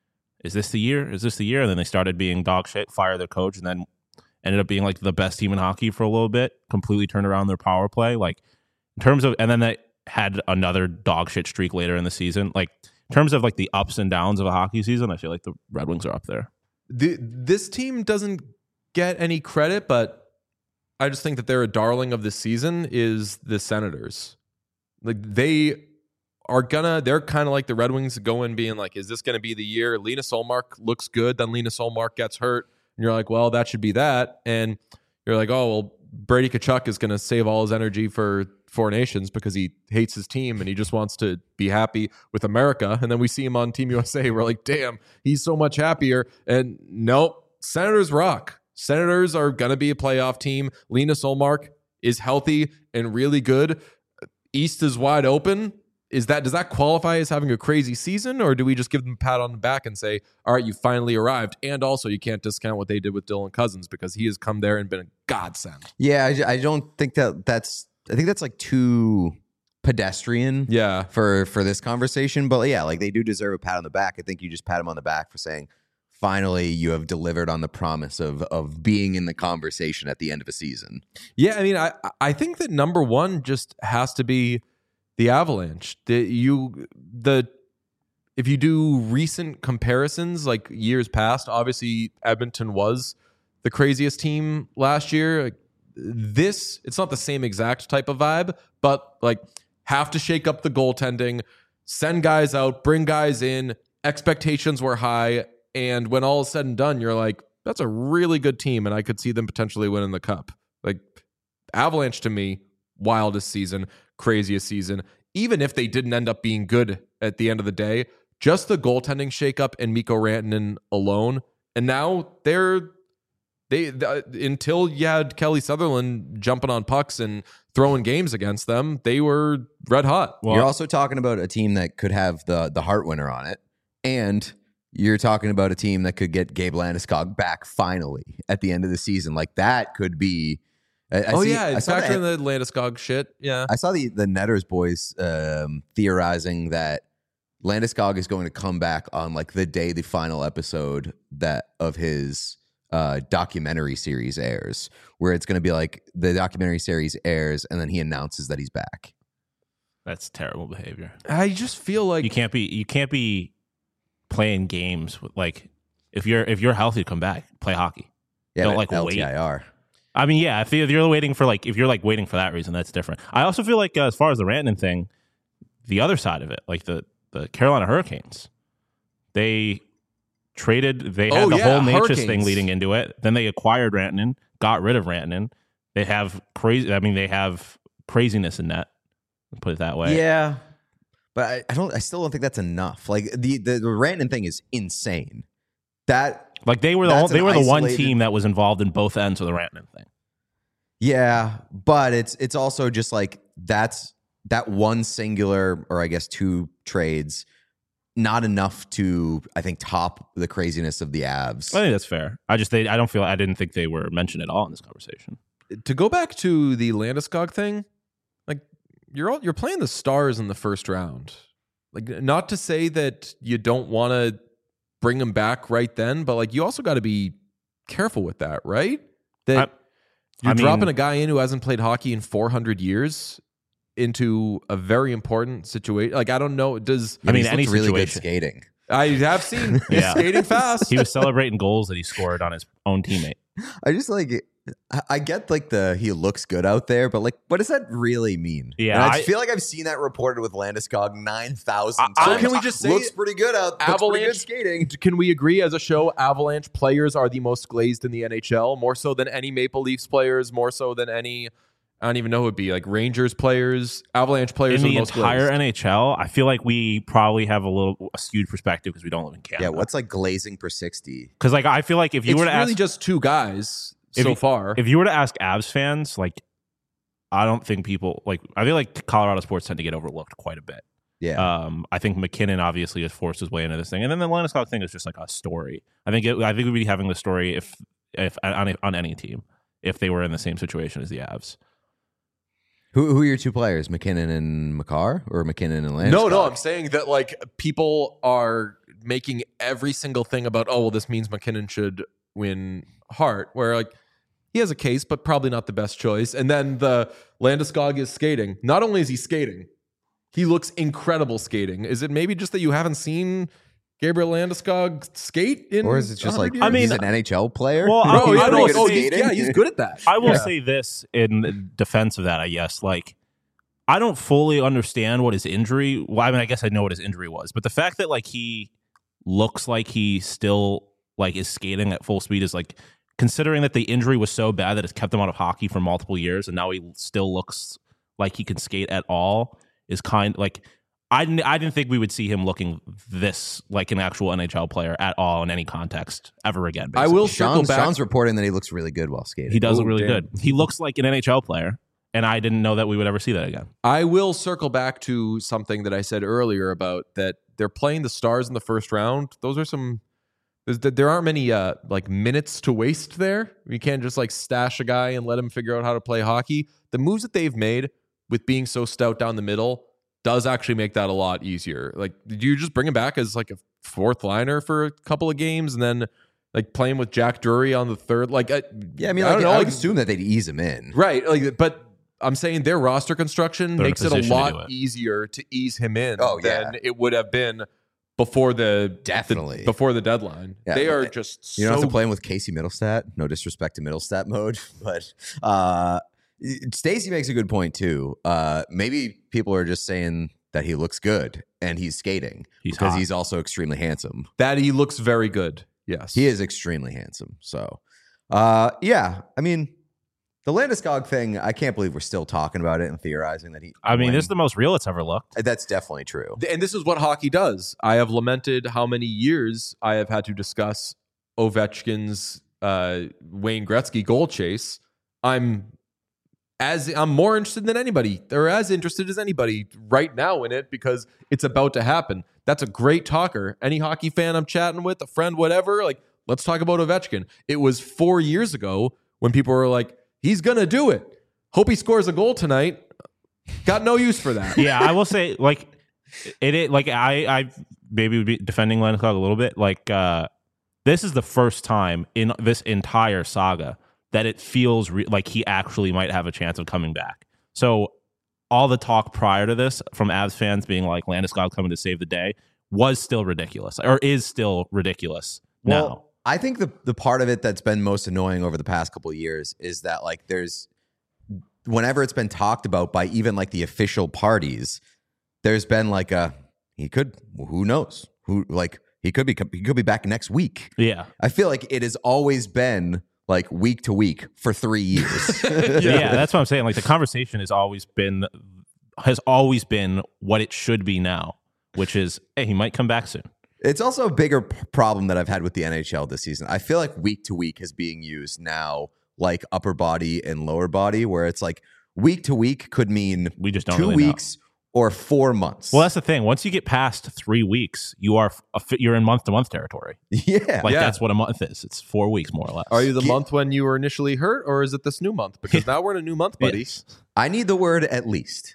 is this the year? Is this the year? And then they started being dog shit, fire their coach, and then ended up being like the best team in hockey for a little bit, completely turned around their power play. Like in terms of, and then they had another dog shit streak later in the season. Like in terms of like the ups and downs of a hockey season, I feel like the Red Wings are up there. This team doesn't get any credit, but I just think that they're a darling of the season is the Senators. Like they're kind of like the Red Wings going being like, is this going to be the year? Linus Ullmark looks good. Then Linus Ullmark gets hurt. And you're like, well, that should be that. And you're like, oh, well, Brady Tkachuk is going to save all his energy for Four Nations because he hates his team and he just wants to be happy with America. And then we see him on Team USA. We're like, damn, he's so much happier. And nope, Senators rock. Senators are going to be a playoff team. Linus Ullmark is healthy and really good. East is wide open. Does that qualify as having a crazy season, or do we just give them a pat on the back and say, all right, you finally arrived? And also, you can't discount what they did with Dylan Cousins because he has come there and been a godsend. Yeah, I don't think that's. I think that's like too pedestrian. Yeah. For this conversation, but yeah, like they do deserve a pat on the back. I think you just pat them on the back for saying, finally, you have delivered on the promise of being in the conversation at the end of a season. Yeah, I mean, I think that number one just has to be the Avalanche. If you do recent comparisons, like years past, obviously Edmonton was the craziest team last year. It's not the same exact type of vibe, but like have to shake up the goaltending, send guys out, bring guys in. Expectations were high, and when all is said and done, you're like, that's a really good team, and I could see them potentially winning the cup. Like Avalanche to me, wildest season, craziest season. Even if they didn't end up being good at the end of the day, just the goaltending shakeup and Mikko Rantanen alone, and now until you had Kelly Sutherland jumping on pucks and throwing games against them, they were red hot. Well, you're also talking about a team that could have the Hart winner on it, and you're talking about a team that could get Gabe Landeskog back finally at the end of the season. Like that could be. Factor in the Landeskog shit. Yeah, I saw the Netters boys theorizing that Landeskog is going to come back on like the day the final episode of his documentary series airs, where it's going to be like the documentary series airs and then he announces that he's back. That's terrible behavior. I just feel like you can't be playing games with, like if you're healthy, come back, play hockey. Yeah, don't like LTIR. wait. I mean, yeah, if you're waiting for like, if you're like waiting for that reason, that's different. I also feel like as far as the Rantanen thing, the other side of it, like the Carolina Hurricanes, they had the whole Natchez thing leading into it. Then they acquired Rantanen, got rid of Rantanen. They have craziness in net. Put it that way. Yeah, but I still don't think that's enough. Like the Rantanen thing is insane. Like they were the one team that was involved in both ends of the Rantanen thing. Yeah, but it's also just like that one singular, or I guess two trades, not enough to, I think, top the craziness of the Avs. I think that's fair. I didn't think they were mentioned at all in this conversation. To go back to the Landeskog thing, like you're playing the Stars in the first round. Like, not to say that you don't want to bring him back right then, but like you also got to be careful with that, right? You're dropping a guy in who hasn't played hockey in 400 years into a very important situation. Like, I don't know. Any really good skating. I have seen he's skating fast. He was celebrating goals that he scored on his own teammate. I get like he looks good out there, but like, what does that really mean? Yeah, and I feel like I've seen that reported with Landeskog 9,000 times. So can we just say looks pretty good out there? Avalanche good skating? Can we agree as a show? Avalanche players are the most glazed in the NHL, more so than any Maple Leafs players, more so than any. I don't even know who it would be, like Rangers players, Avalanche players. In the entire NHL, I feel like we probably have a skewed perspective because we don't live in Canada. Yeah, what's like glazing per 60? Because like I feel like if you were to really ask, just two guys so far. If you were to ask Avs fans, like I don't think people like. I feel like Colorado sports tend to get overlooked quite a bit. Yeah. I think McKinnon obviously has forced his way into this thing, and then the Landeskog thing is just like a story. I think we'd be having the story if on any team if they were in the same situation as the Avs. Who are your two players, McKinnon and Makar, or McKinnon and Landeskog? No, I'm saying that like people are making every single thing about, oh, well, this means McKinnon should win Hart, where like he has a case, but probably not the best choice. And then the Landeskog is skating. Not only is he skating, he looks incredible skating. Is it maybe just that you haven't seen Gabriel Landeskog skate in? Or is it just like, years? he's an NHL player? Well, he's good at that. I will say this in defense of that, I guess. Like, I don't fully understand what his injury. Well, I mean, I guess I know what his injury was, but the fact that like he looks like he still like is skating at full speed is like considering that the injury was so bad that it's kept him out of hockey for multiple years, and now he still looks like he can skate at all, is kind like I didn't think we would see him looking this like an actual NHL player at all in any context ever again. I basically. will circle back. Sean's reporting that he looks really good while skating. He does look Oh, really damn. good. He looks like an NHL player, and I didn't know that we would ever see that again. I will circle back to something that I said earlier about that they're playing the Stars in the first round. Those are some. There aren't many like minutes to waste there. You can't just like stash a guy and let him figure out how to play hockey. The moves that they've made with being so stout down the middle does actually make that a lot easier. Like, did you just bring him back as like a fourth liner for a couple of games and then like play him with Jack Drury on the third? Like, Yeah, I mean, I like, don't know. I would Like, assume that they'd ease him in. right. Like, but I'm saying their roster construction They're in a makes it a position to do lot it. easier to ease him in Oh, than yeah. it would have been before Definitely. before the deadline. Yeah, they are but just You don't so have to play him with Casey Middlestat. No disrespect to Middlestat mode, but Stacey makes a good point too. Maybe people are just saying that he looks good and he's skating He's because hot. he's also extremely handsome. that he looks very good. Yes, He is extremely handsome. So, yeah, I mean, the Landeskog thing, I can't believe we're still talking about it and theorizing that he. I mean, when- this is the most real it's ever looked. that's definitely true. And this is what hockey does. I have lamented how many years I have had to discuss Ovechkin's Wayne Gretzky goal chase. I'm more interested than anybody, or as interested as anybody right now in it, because it's about to happen. That's a great talker. Any hockey fan I'm chatting with, a friend, whatever, like, let's talk about Ovechkin. It was 4 years ago when people were like, he's gonna do it. Hope he scores a goal tonight. Got no use for that. Yeah, I will say, like, it like I maybe would be defending Landeskog a little bit. Like, this is the first time in this entire saga that it feels like he actually might have a chance of coming back. So all the talk prior to this from Avs fans being like Landeskog coming to save the day was still ridiculous, or is still ridiculous now. Well, I think the part of it that's been most annoying over the past couple of years is that like there's whenever it's been talked about by even like the official parties, there's been like who knows he could be back next week. Yeah. I feel like it has always been like week to week for 3 years. Yeah, that's what I'm saying. Like the conversation has always been what it should be now, which is, hey, he might come back soon. It's also a bigger problem that I've had with the NHL this season. I feel like week to week is being used now like upper body and lower body, where it's like week to week could mean We just don't 2 really know. weeks or 4 months. Well, that's the thing. Once you get past 3 weeks, you're in month to month territory. yeah. Like Yeah. that's what a month is. It's 4 weeks more or less. Are you the month when you were initially hurt, or is it this new month? Because now we're in a new month, buddy. Yes. I need the word at least.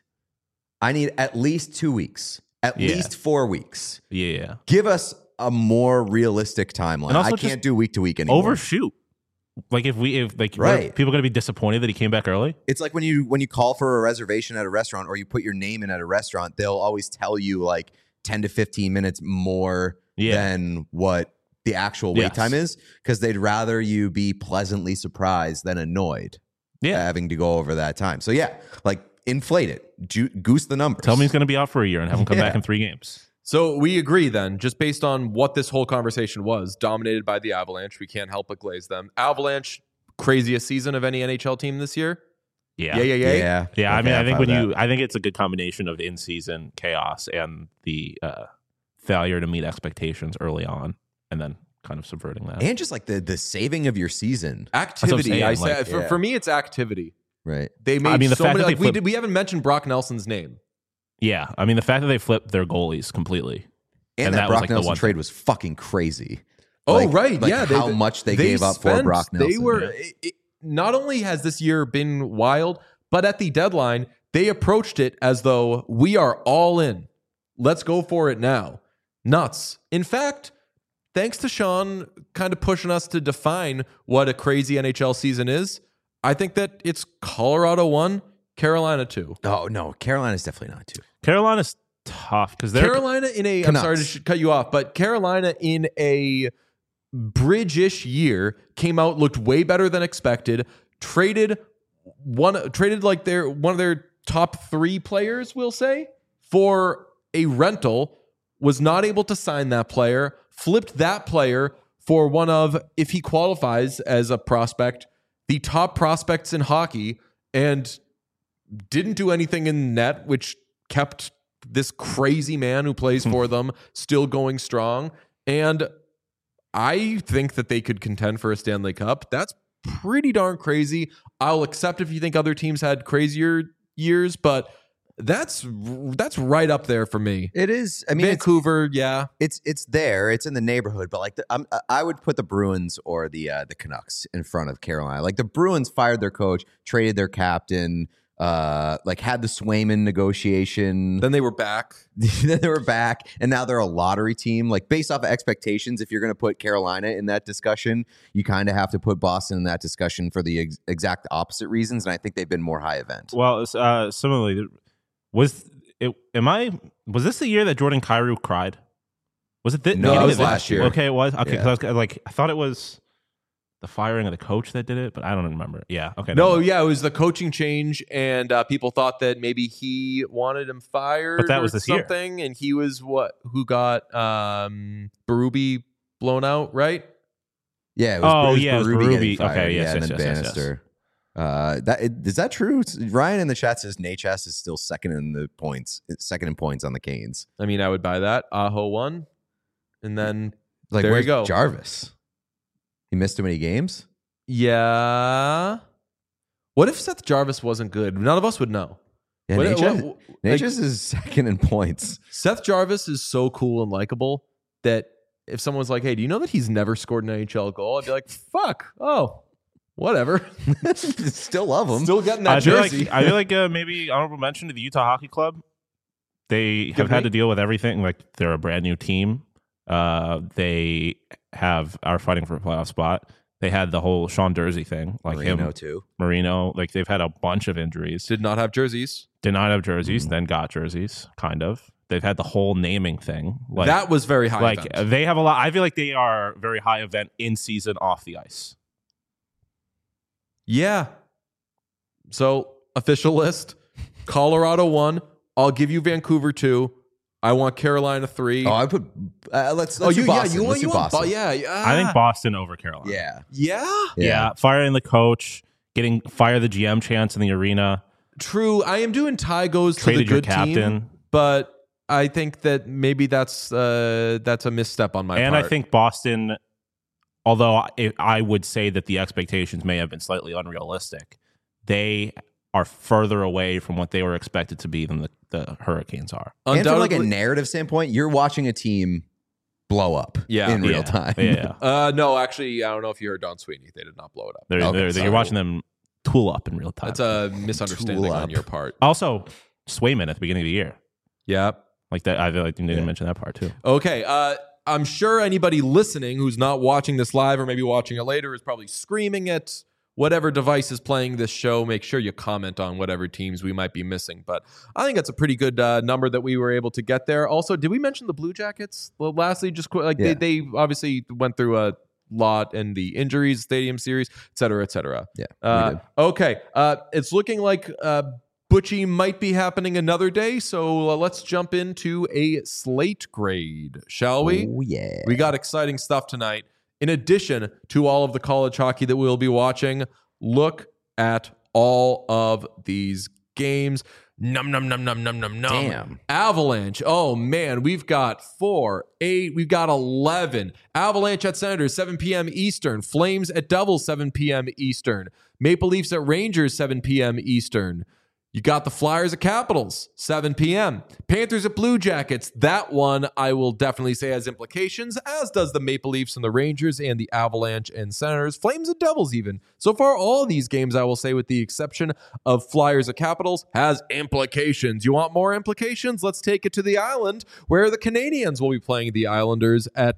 I need at least 2 weeks, at Yeah. least 4 weeks. Yeah. Give us a more realistic timeline. And also I just can't do week to week anymore. Overshoot. Like if Right. people going to be disappointed that he came back early? It's like when you call for a reservation at a restaurant or you put your name in at a restaurant, they'll always tell you like 10 to 15 minutes more Yeah. than what the actual wait Yes. time is, because they'd rather you be pleasantly surprised than annoyed Yeah. having to go over that time. So yeah, like inflate it, goose the numbers. Tell me he's going to be out for a year and have him come Yeah. back in 3 games. So we agree then, just based on what this whole conversation was, dominated by the Avalanche. We can't help but glaze them. Avalanche, craziest season of any NHL team this year. Yeah. Yeah. Yeah, Yeah, I Okay, mean, I think follow that. I think it's a good combination of in-season chaos and the failure to meet expectations early on, and then kind of subverting that. And just like the saving of your season, Activity. saying, I say like, yeah. for me, it's activity. right? They made I mean, the so fact many. that Like, they flipped- we haven't mentioned Brock Nelson's name. Yeah, I mean, the fact that they flipped their goalies completely. And, And that that was, Brock like, the Nelson one trade was fucking crazy. Oh, Like- right. like yeah. how much they gave up for Brock Nelson. They were. Yeah. Not only has this year been wild, but at the deadline, they approached it as though we are all in. Let's go for it now. Nuts. In fact, thanks to Sean kind of pushing us to define what a crazy NHL season is, I think that it's Colorado 1, Carolina 2. Oh no, Carolina's definitely not too. Carolina's tough because they're Carolina in a, I'm Canucks. sorry to cut you off, but Carolina in a bridge-ish year came out, looked way better than expected, traded like one of their top 3 players, we'll say, for a rental, was not able to sign that player, flipped that player for one of, if he qualifies as a prospect, the top prospects in hockey, and didn't do anything in net, which kept this crazy man who plays for them still going strong. And I think that they could contend for a Stanley Cup. That's pretty darn crazy. I'll accept if you think other teams had crazier years, but that's right up there for me. It is. I mean, Vancouver, it's there. It's in the neighborhood, but like I would put the Bruins or the Canucks in front of Carolina. Like the Bruins fired their coach, traded their captain, like had the Swayman negotiation. Then they were back. Then they were back, and now they're a lottery team. Like based off of expectations, if you're going to put Carolina in that discussion, you kind of have to put Boston in that discussion for the exact opposite reasons. And I think they've been more high event. Well, similarly, was this the year that Jordan Kyrou cried? Was it No, it was last year. Okay, it was. Okay, Yeah. because I thought it was the firing of the coach that did it, but I don't remember. Yeah, okay. No, yeah, it was the coaching change, and people thought that maybe he wanted him fired, But that was or this year. something, and he was who got Berube blown out, right? Yeah. It Oh, was yeah, it was Berube getting Berube. fired. Okay, yes, and yes, then yes, yes, Bannister. Is that true? Ryan in the chat says Natchez is still second in points on the Canes. I mean, I would buy that. Aho won, and then Like, there you where's go. Jarvis? He missed too many games. Yeah. What if Seth Jarvis wasn't good? None of us would know. Yeah, What- Natchez, what- Natchez is second in points. Seth Jarvis is so cool and likable that if someone's like, "Hey, do you know that he's never scored an NHL goal?" I'd be like, "Fuck, oh, whatever." Still love him. Still getting that I feel jersey. like maybe honorable mention to the Utah Hockey Club. They have had to deal with everything. Like they're a brand new team. They are fighting for a playoff spot. They had the whole Sean Dursey thing, like Marino him, too. Marino. Like they've had a bunch of injuries. Did not have jerseys. Did not have jerseys, then got jerseys. Kind of. They've had the whole naming thing. Like That was very high. like event. they have a lot. I feel like they are very high event in season, off the ice. Yeah. So official list: Colorado 1. I'll give you Vancouver 2. I want Carolina 3. Oh, I put. Let's do you Boston. you Let's do want Boston. yeah. I think Boston over Carolina. Yeah. Yeah. Yeah, firing the coach, getting fire the GM chance in the arena, True. I am doing Ty goes to the traded your good captain. team, but I think that maybe that's a misstep on my And part. I think Boston, although I would say that the expectations may have been slightly unrealistic, they are further away from what they were expected to be than the Hurricanes are. And from like a Undoubtedly- narrative standpoint, you're watching a team blow up in real time. Yeah. no, actually, I don't know if you heard Don Sweeney. They did not blow it up. You're watching them tool up in real time. That's a misunderstanding Tool on up. your part. Also, Swayman at the beginning of the year. Yeah. Like that, I feel like you didn't mention that part too. Okay. I'm sure anybody listening who's not watching this live or maybe watching it later is probably screaming at whatever device is playing this show. Make sure you comment on whatever teams we might be missing. But I think that's a pretty good number that we were able to get there. Also, did we mention the Blue Jackets? Well, lastly, just like Yeah. they obviously went through a lot in the injuries, stadium series, et cetera, et cetera. Yeah, we did. Okay. It's looking like Butchie might be happening another day. So let's jump into a slate grade, shall we? Oh, yeah. We got exciting stuff tonight. In addition to all of the college hockey that we'll be watching, look at all of these games. Num, num, num, num, num, num, num. Damn. Avalanche. Oh, man. We've got 4, 8. We've got 11. Avalanche at Senators, 7 p.m. Eastern. Flames at Devils, 7 p.m. Eastern. Maple Leafs at Rangers, 7 p.m. Eastern. You got the Flyers at Capitals, 7 p.m. Panthers at Blue Jackets. That one I will definitely say has implications, as does the Maple Leafs and the Rangers and the Avalanche and Senators. Flames and Devils even. So far, all of these games, I will say, with the exception of Flyers at Capitals, has implications. You want more implications? Let's take it to the island, where the Canadians will be playing the Islanders at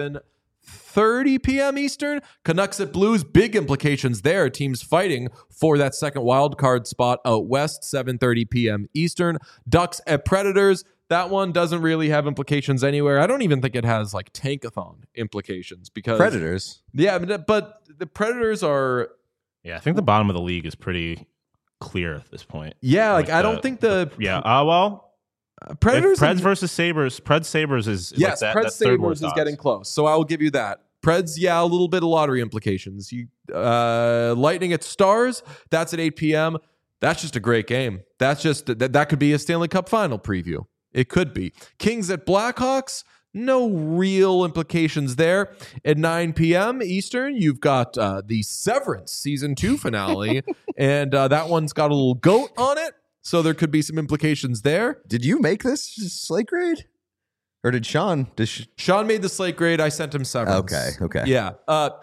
7:30 p.m. Eastern. Canucks at Blues, big implications there. Teams fighting for that second wild card spot out west, 7:30 p.m. Eastern. Ducks at Predators. That one doesn't really have implications anywhere. I don't even think it has like tankathon implications because Predators. Yeah, but the Predators are Yeah, I think the bottom of the league is pretty clear at this point. yeah. Like I don't think the Well, Predators. Preds versus Sabres. Preds Sabres is yes, like Preds that third Sabres is worst getting odds. close. So I will give you that. Preds, yeah, a little bit of lottery implications. Lightning at Stars, that's at 8 p.m. That's just a great game. That's just that could be a Stanley Cup final preview. It could be. Kings at Blackhawks, no real implications there. At 9 p.m. Eastern, you've got the Severance Season 2 finale, and that one's got a little goat on it, so there could be some implications there. Did you make this slate grade? Or did Sean? Sean made the slate grade. I sent him Severance. Okay. Yeah.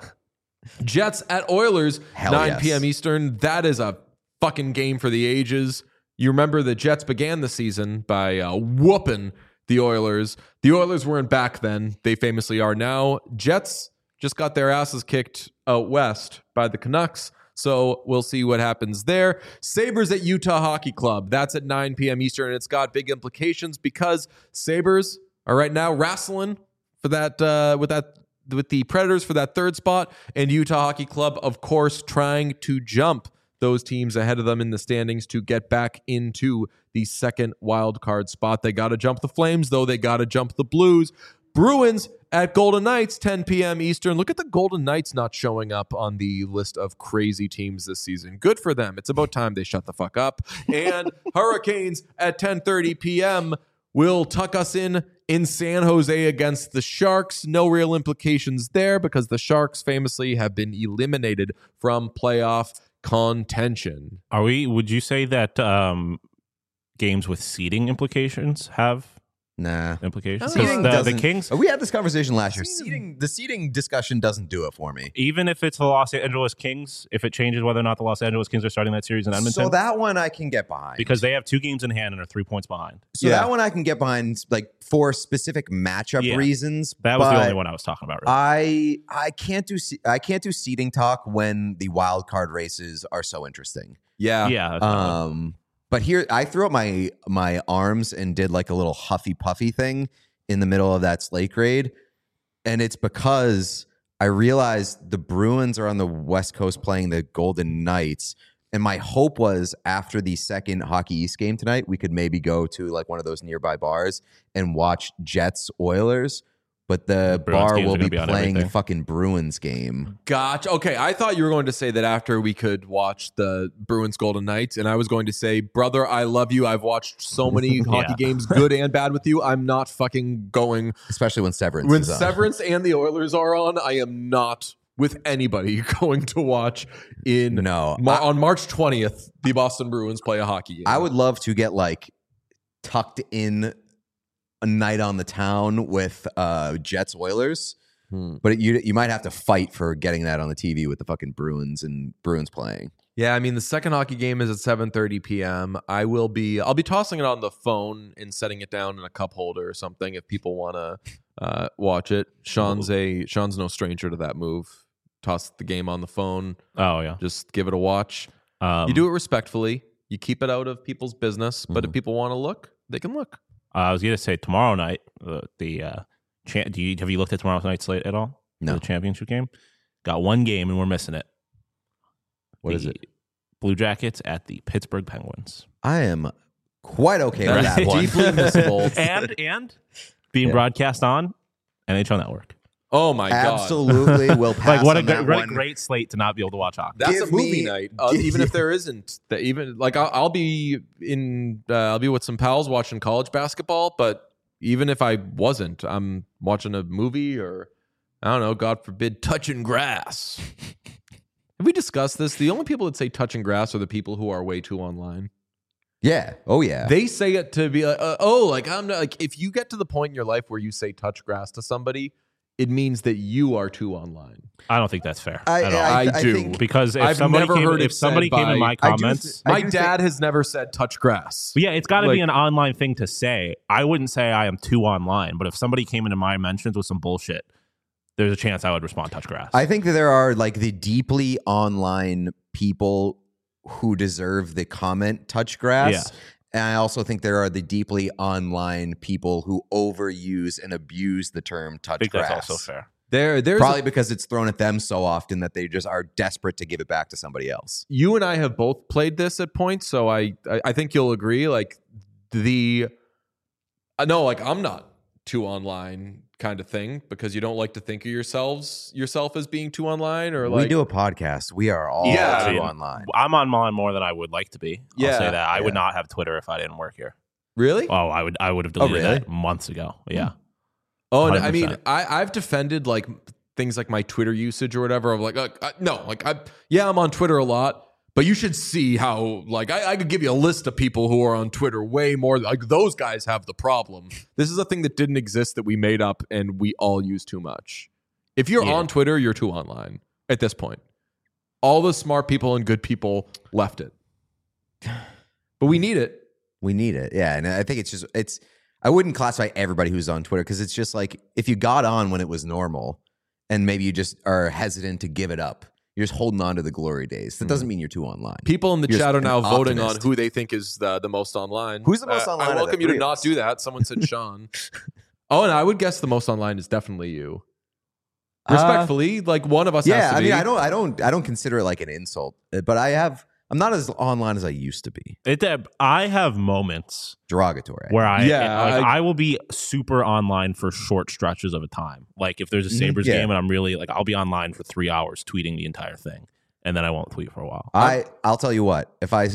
Jets at Oilers, Hell 9 yes. p.m. Eastern. That is a fucking game for the ages. You remember the Jets began the season by whooping the Oilers. The Oilers weren't back then. They famously are now. Jets just got their asses kicked out west by the Canucks. So we'll see what happens there. Sabres at Utah Hockey Club. That's at 9 p.m. Eastern, and it's got big implications because Sabres are right now wrestling for that with the Predators for that third spot, and Utah Hockey Club, of course, trying to jump those teams ahead of them in the standings to get back into the second wild card spot. They got to jump the Flames, though. They got to jump the Blues. Bruins at Golden Knights, 10 p.m. Eastern. Look at the Golden Knights not showing up on the list of crazy teams this season. Good for them. It's about time they shut the fuck up. And Hurricanes at 10:30 p.m. will tuck us in San Jose against the Sharks. No real implications there because the Sharks famously have been eliminated from playoff contention. Would you say that games with seeding implications have Nah. implications? Seeding The doesn't- Kings, We had this conversation last year. The seeding discussion doesn't do it for me. even if it's the Los Angeles Kings, if it changes whether or not the Los Angeles Kings are starting that series in Edmonton, So that one I can get behind. because they have 2 games in hand and are 3 points behind. So that one I can get behind, like for specific matchup Yeah. reasons. That was the but only one I was talking about. Really. I can't do seeding talk when the wild card races are so interesting. Yeah. Yeah. that's valid. But here I threw up my arms and did like a little huffy puffy thing in the middle of that slate grade, and it's because I realized the Bruins are on the West Coast playing the Golden Knights. And my hope was after the second Hockey East game tonight, we could maybe go to like one of those nearby bars and watch Jets Oilers. But the Bruins bar games will are gonna be be on playing the everything. fucking Bruins game. Gotcha. Okay, I thought you were going to say that after we could watch the Bruins Golden Knights, and I was going to say, brother, I love you. I've watched so many hockey games, good and bad, with you. I'm not fucking going. Especially when Severance When is on. Severance and the Oilers are on, I am not with anybody going to watch on March 20th, the Boston Bruins play a hockey game. I would love to get like tucked in a night on the town with Jets Oilers, but you might have to fight for getting that on the TV with the fucking Bruins playing. Yeah, I mean the second hockey game is at 7:30 p.m. I'll be tossing it on the phone and setting it down in a cup holder or something if people want to watch it. Sean's no stranger to that move. Toss the game on the phone. Oh yeah. Just give it a watch. You do it respectfully. You keep it out of people's business, but if people want to look, they can look. I was gonna say tomorrow night. Have you looked at tomorrow night's slate at all? No. The championship game. Got one game and we're missing it. What is it? Blue Jackets at the Pittsburgh Penguins. I am quite okay with That's that one. deeply missable. and being broadcast on NHL Network. Oh my god! Absolutely will pass Like what on that a one. great slate to not be able to watch hockey. That's Give a movie me- night. Even if there isn't, I'll be with some pals watching college basketball. But even if I wasn't, I'm watching a movie or I don't know. God forbid, touching grass. Have we discussed this? The only people that say touching grass are the people who are way too online. Yeah. Oh yeah. They say it to be like, I'm not like, if you get to the point in your life where you say touch grass to somebody, it means that you are too online. I don't think that's fair I- at all. I do. think- Because if I've somebody never came, heard it if somebody said came in by- my comments, I My do dad has never said touch grass. yeah, it's got to Like- be an online thing to say. I wouldn't say I am too online, but if somebody came into my mentions with some bullshit, there's a chance I would respond touch grass. I think that there are like the deeply online people who deserve the comment touch grass. Yeah. And I also think there are the deeply online people who overuse and abuse the term touch I think grass. that's also fair. There's Probably because it's thrown at them so often that they just are desperate to give it back to somebody else. you and I have both played this at points, so I think you'll agree. Like I'm not too online kind of thing because you don't like to think of yourself as being too online, or like we do a podcast. We are all too online. I'm online more than I would like to be. I'll Yeah. say that. I would not have Twitter if I didn't work here. Really? Oh, I would have deleted really? that months ago. Yeah. Oh, and I mean, 100%. I've defended like things like my Twitter usage or whatever. Of like, I'm on Twitter a lot, but you should see how like I could give you a list of people who are on Twitter way more. Like those guys have the problem. This is a thing that didn't exist that we made up and we all use too much. If you're on Twitter, you're too online at this point. All the smart people and good people left it, but we need it. We need it. Yeah. And I think I wouldn't classify everybody who's on Twitter because it's just like if you got on when it was normal and maybe you just are hesitant to give it up, you're just holding on to the glory days. That doesn't mean you're too online. People in the You're chat are an now voting on optimist. who they think is the most online. Who's the most online I of the welcome you to three of not us? do that. Someone said Sean. Oh, and I would guess the most online is definitely you. Respectfully, like one of us has Yeah, to I be. mean, I don't consider it like an insult, but I'm not as online as I used to be. I have moments Derogatory. where Yeah, I will be super online for short stretches of a time. Like if there's a Sabres Yeah. game and I'm really like, I'll be online for 3 hours tweeting the entire thing, and then I won't tweet for a while. I'll tell you what. If I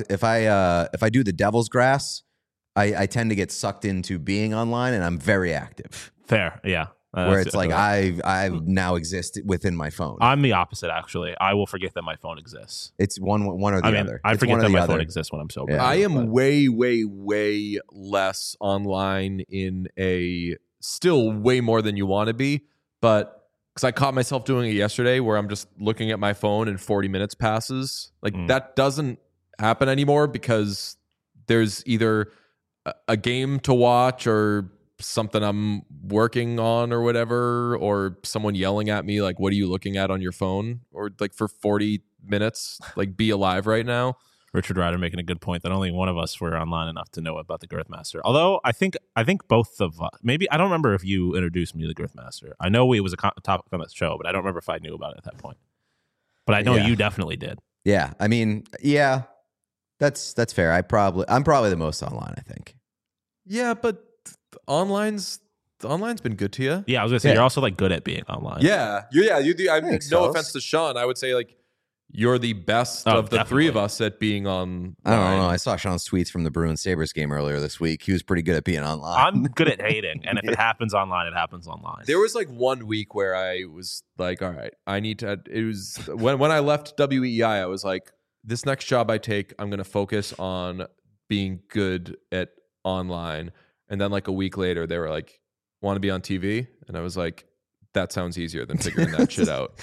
do the devil's grass, I tend to get sucked into being online, and I'm very active. Fair, yeah. Where it's like I now exist within my phone. I'm the opposite, actually. I will forget that my phone exists. It's one or the other. I It's forget one or that the my other. phone exists when I'm sober. Yeah. I am way, way, way less online in a still way more than you want to be, but because I caught myself doing it yesterday where I'm just looking at my phone and 40 minutes passes. Like that doesn't happen anymore because there's either a game to watch or something I'm working on or whatever, or someone yelling at me like, what are you looking at on your phone? Or like for 40 minutes, like be alive right now. Richard Ryder making a good point that only one of us were online enough to know about the Girthmaster. Although I think both of us, maybe I don't remember if you introduced me to the Girthmaster. I know it was a topic on the show, but I don't remember if I knew about it at that point. But I know you definitely did. Yeah, I mean, yeah, that's fair. I'm probably the most online, I think. Yeah, but online's been good to you. Yeah, I was gonna say Yeah. you're also like good at being online. Yeah, you do. I mean, Thanks, no fellas. offense to Sean, I would say like you're the best Oh, of the three of definitely. us at being on. I don't know. I saw Sean's tweets from the Bruins Sabres game earlier this week. He was pretty good at being online. I'm good at hating, and if it happens online, it happens online. There was like 1 week where I was like, all right, I need to. It was when I left WEI, I was like, this next job I take, I'm going to focus on being good at online. And then like a week later, they were like, want to be on TV? And I was like, that sounds easier than figuring that shit out.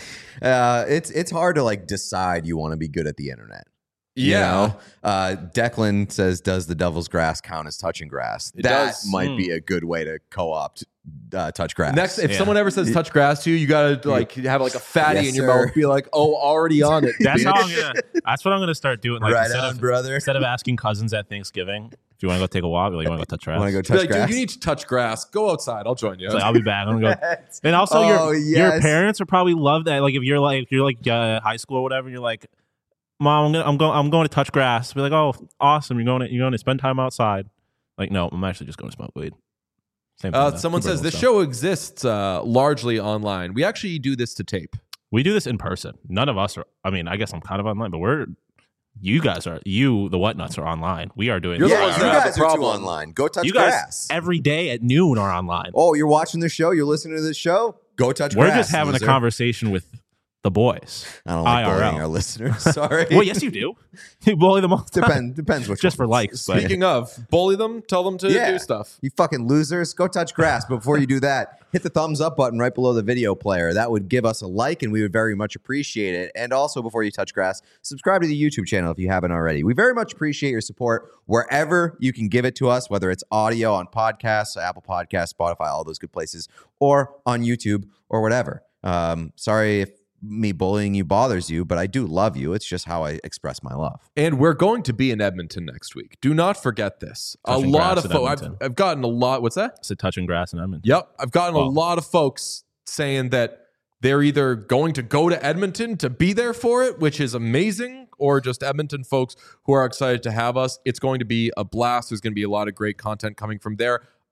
It's hard to like decide you want to be good at the internet. You Yeah. know? Declan says, does the devil's grass count as touching grass? It That does. might be a good way to co-opt touch grass. Next, if Yeah. someone ever says touch grass to you, you gotta like have like a fatty Yes, in your sir. mouth, be like, oh, already on it. That's bitch. how that's what I'm gonna start doing. Like right on, brother. instead of asking cousins at Thanksgiving, if you want to go take a walk, like, you want to go touch grass. Want to go Be touch like, grass? dude, you need to touch grass. Go outside. I'll join you. It's like, I'll be back. I'm gonna go. And also, Oh, your yes. parents would probably love that. Like if you're high school or whatever, and you're like, Mom, I'm going to touch grass. Be like, oh, awesome. You're going to spend time outside. Like, no, I'm actually just going to smoke weed. Same thing. Someone says the stuff. show exists largely online. We actually do this to tape. We do this in person. None of us are. I mean, I guess I'm kind of online, but you guys are. The Whatnuts are online. We are doing. You're the Yeah, ones you that have guys the are too problem. online. Go touch you guys grass. every day at noon are online. Oh, you're watching the show? You're listening to this show? Go touch We're grass. just having loser. a conversation with the boys. I don't like IRL. bullying our listeners. Sorry. Well, yes, you do. You bully them all the time. Depends which Just one. for likes. But Speaking of, bully them, tell them to Yeah. do stuff. You fucking losers. Go touch grass. But before you do that, hit the thumbs up button right below the video player. That would give us a like, and we would very much appreciate it. And also, before you touch grass, subscribe to the YouTube channel if you haven't already. We very much appreciate your support wherever you can give it to us, whether it's audio on podcasts, Apple Podcasts, Spotify, all those good places, or on YouTube or whatever. Sorry if me bullying you bothers you, but I do love you. It's just how I express my love. And we're going to be in Edmonton next week. Do not forget this. Touching a lot grass of in folks. Edmonton. I've gotten a lot. What's that? it's a touching grass in Edmonton. Yep. I've gotten a Wow. lot of folks saying that they're either going to go to Edmonton to be there for it, which is amazing, or just Edmonton folks who are excited to have us. It's going to be a blast. There's going to be a lot of great content coming from there.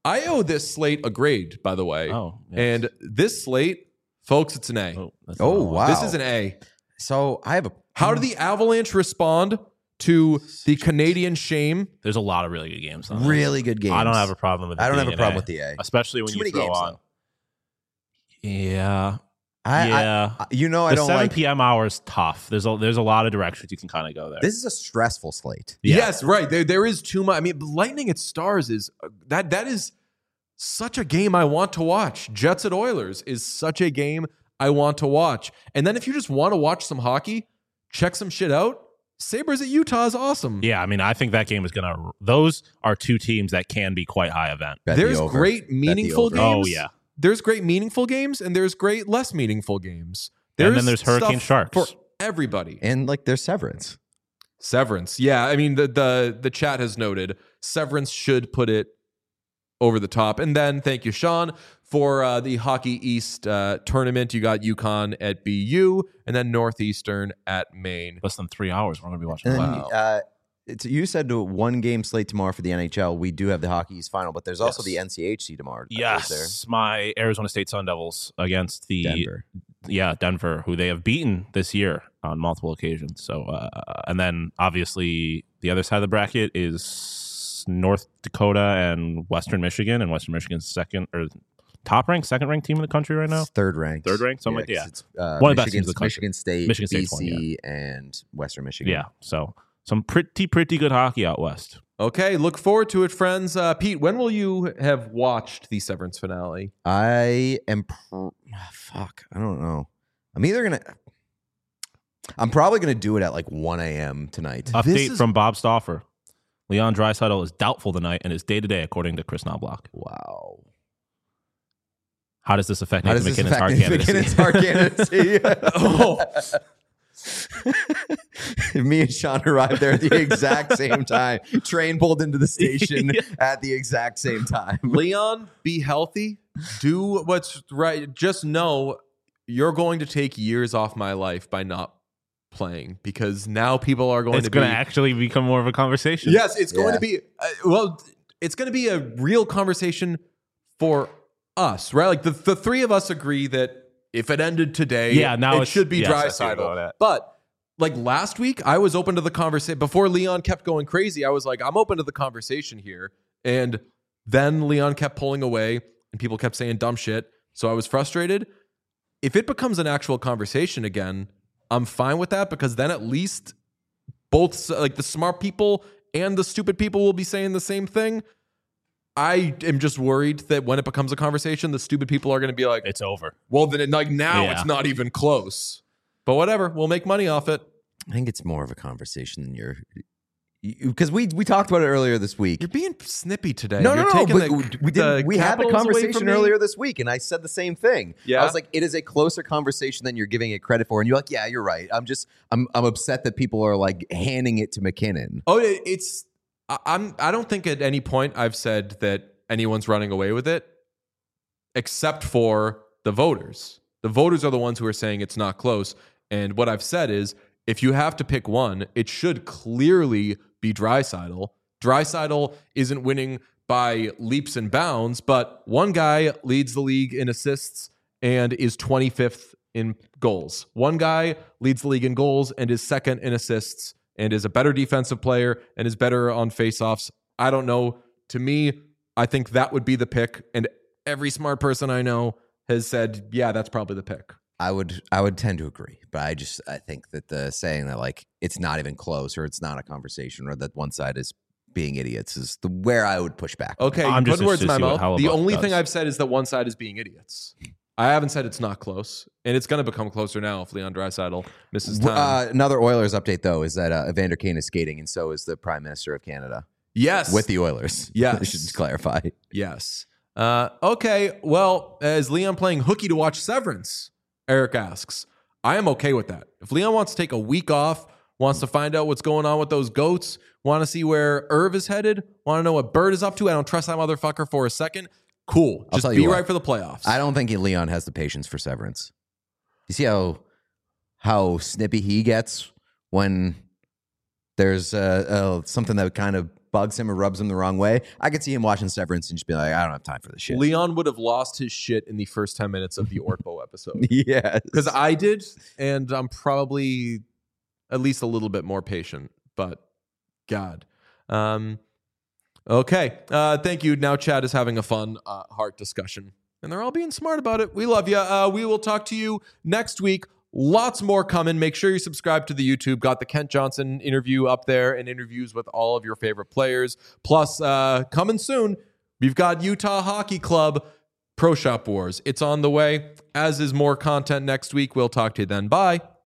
I owe this slate a grade, by the way. Oh, yes. And this slate, folks, it's an A. That's Oh, not a lot. wow. This is an A. So I have a. How did the Avalanche respond to the Canadian shame? There's a lot of really good games. On this. Really good games. I don't have a problem with it. I don't have being a problem an with the A. especially when Too you many throw games, on. though. Yeah, I I don't the 7 like. p.m. hour is tough. There's a lot of directions you can kind of go there. This is a stressful slate. Yeah. Yes, right. There is too much. I mean, Lightning at Stars is that is such a game I want to watch. Jets at Oilers is such a game I want to watch. And then if you just want to watch some hockey, check some shit out. Sabres at Utah is awesome. Yeah, I mean, I think that game is gonna. Those are two teams that can be quite high event. Bet the There's over. great Bet the meaningful over. games. Oh yeah, There's great meaningful games and there's great less meaningful games. And then there's Hurricane stuff Sharks. for everybody. And like there's Severance. Severance. Yeah, I mean the chat has noted Severance should put it over the top. And then thank you, Sean, for the Hockey East tournament. You got UConn at BU and then Northeastern at Maine. less than 3 hours. We're gonna be watching. And Wow. then, you said to one game slate tomorrow for the NHL. We do have the Hockey East final, but there's also Yes. the NCHC tomorrow. Yes, my Arizona State Sun Devils against the Denver. Denver, who they have beaten this year on multiple occasions. So, and then obviously the other side of the bracket is North Dakota and Western Michigan, and Western Michigan's second second ranked team in the country right now. It's third ranked. Third ranked, something like- 'cause yeah. It's, One of the best teams in the country. Michigan State, Michigan State's BC, one, and Western Michigan. Yeah, so some pretty good hockey out west. Okay, look forward to it, friends. Pete, when will you have watched the Severance finale? I am. Fuck. I don't know. I'm probably gonna do it at like 1 a.m. tonight. Update is- from Bob Stauffer: Leon Draisaitl is doubtful tonight and is day to day, according to Chris Knobloch. Wow. How does this affect How Nathan does this McKinnon's affect hard Nathan candidacy? McKinnon's hard candidacy? Me and Sean arrived there at the exact same time. Train pulled into the station at the exact same time. Leon, be healthy. Do what's right. Just know you're going to take years off my life by not playing because now people are going It's to going be. to actually become more of a conversation. Yes, it's going Yeah. to be. It's going to be a real conversation for us, right? Like the three of us agree that if it ended today, Yeah, now it it's- should be yes, I see where you're going Draisaitl. at. But like last week, I was open to the conversation. Before Leon kept going crazy, I was like, I'm open to the conversation here. And then Leon kept pulling away and people kept saying dumb shit. So I was frustrated. If it becomes an actual conversation again, I'm fine with that because then at least both like the smart people and the stupid people will be saying the same thing. I am just worried that when it becomes a conversation, the stupid people are going to be like, It's over. well, then like now Yeah. it's not even close. But whatever, we'll make money off it. I think it's more of a conversation than because we talked about it earlier this week. You're being snippy today. No, You're no, taking but we did. We had the capitals away conversation from me. earlier this week, and I said the same thing. Yeah? I was like, it is a closer conversation than you're giving it credit for, and you're like, yeah, you're right. I'm upset that people are like handing it to McKinnon. Oh, I don't think at any point I've said that anyone's running away with it, except for the voters. The voters are the ones who are saying it's not close. And what I've said is, if you have to pick one, it should clearly be Draisaitl. Draisaitl isn't winning by leaps and bounds, but one guy leads the league in assists and is 25th in goals. One guy leads the league in goals and is second in assists and is a better defensive player and is better on faceoffs. I don't know. To me, I think that would be the pick. And every smart person I know has said, yeah, that's probably the pick. I would tend to agree, but I think that the saying that like it's not even close or it's not a conversation or that one side is being idiots is where I would push back. Okay, I'm put just words in my interested to see mouth. what The Hellebuyck only does. thing I've said is that one side is being idiots. I haven't said it's not close, and it's going to become closer now if Leon Draisaitl misses time. Another Oilers update though is that Evander Kane is skating, and so is the Prime Minister of Canada Yes, with the Oilers. Yes. I should just clarify. yes. Okay, well, is Leon playing hooky to watch Severance? Eric asks. I am okay with that. If Leon wants to take a week off, wants to find out what's going on with those goats, want to see where Irv is headed, want to know what Bird is up to, I don't trust that motherfucker for a second. Cool. I'll Just tell be you what. right for the playoffs. I don't think Leon has the patience for Severance. You see how snippy he gets when there's something that kind of bugs him or rubs him the wrong way, I could see him watching Severance and just be like, I don't have time for this shit. Leon would have lost his shit in the first 10 minutes of the Orpo episode. Yes. Because I did, and I'm probably at least a little bit more patient, but God. Okay. Thank you. Now Chad is having a fun heart discussion, and they're all being smart about it. We love you. We will talk to you next week. Lots more coming. Make sure you subscribe to the YouTube. Got the Kent Johnson interview up there and interviews with all of your favorite players. Plus, coming soon, we've got Utah Hockey Club Pro Shop Wars. It's on the way, as is more content next week. We'll talk to you then. Bye.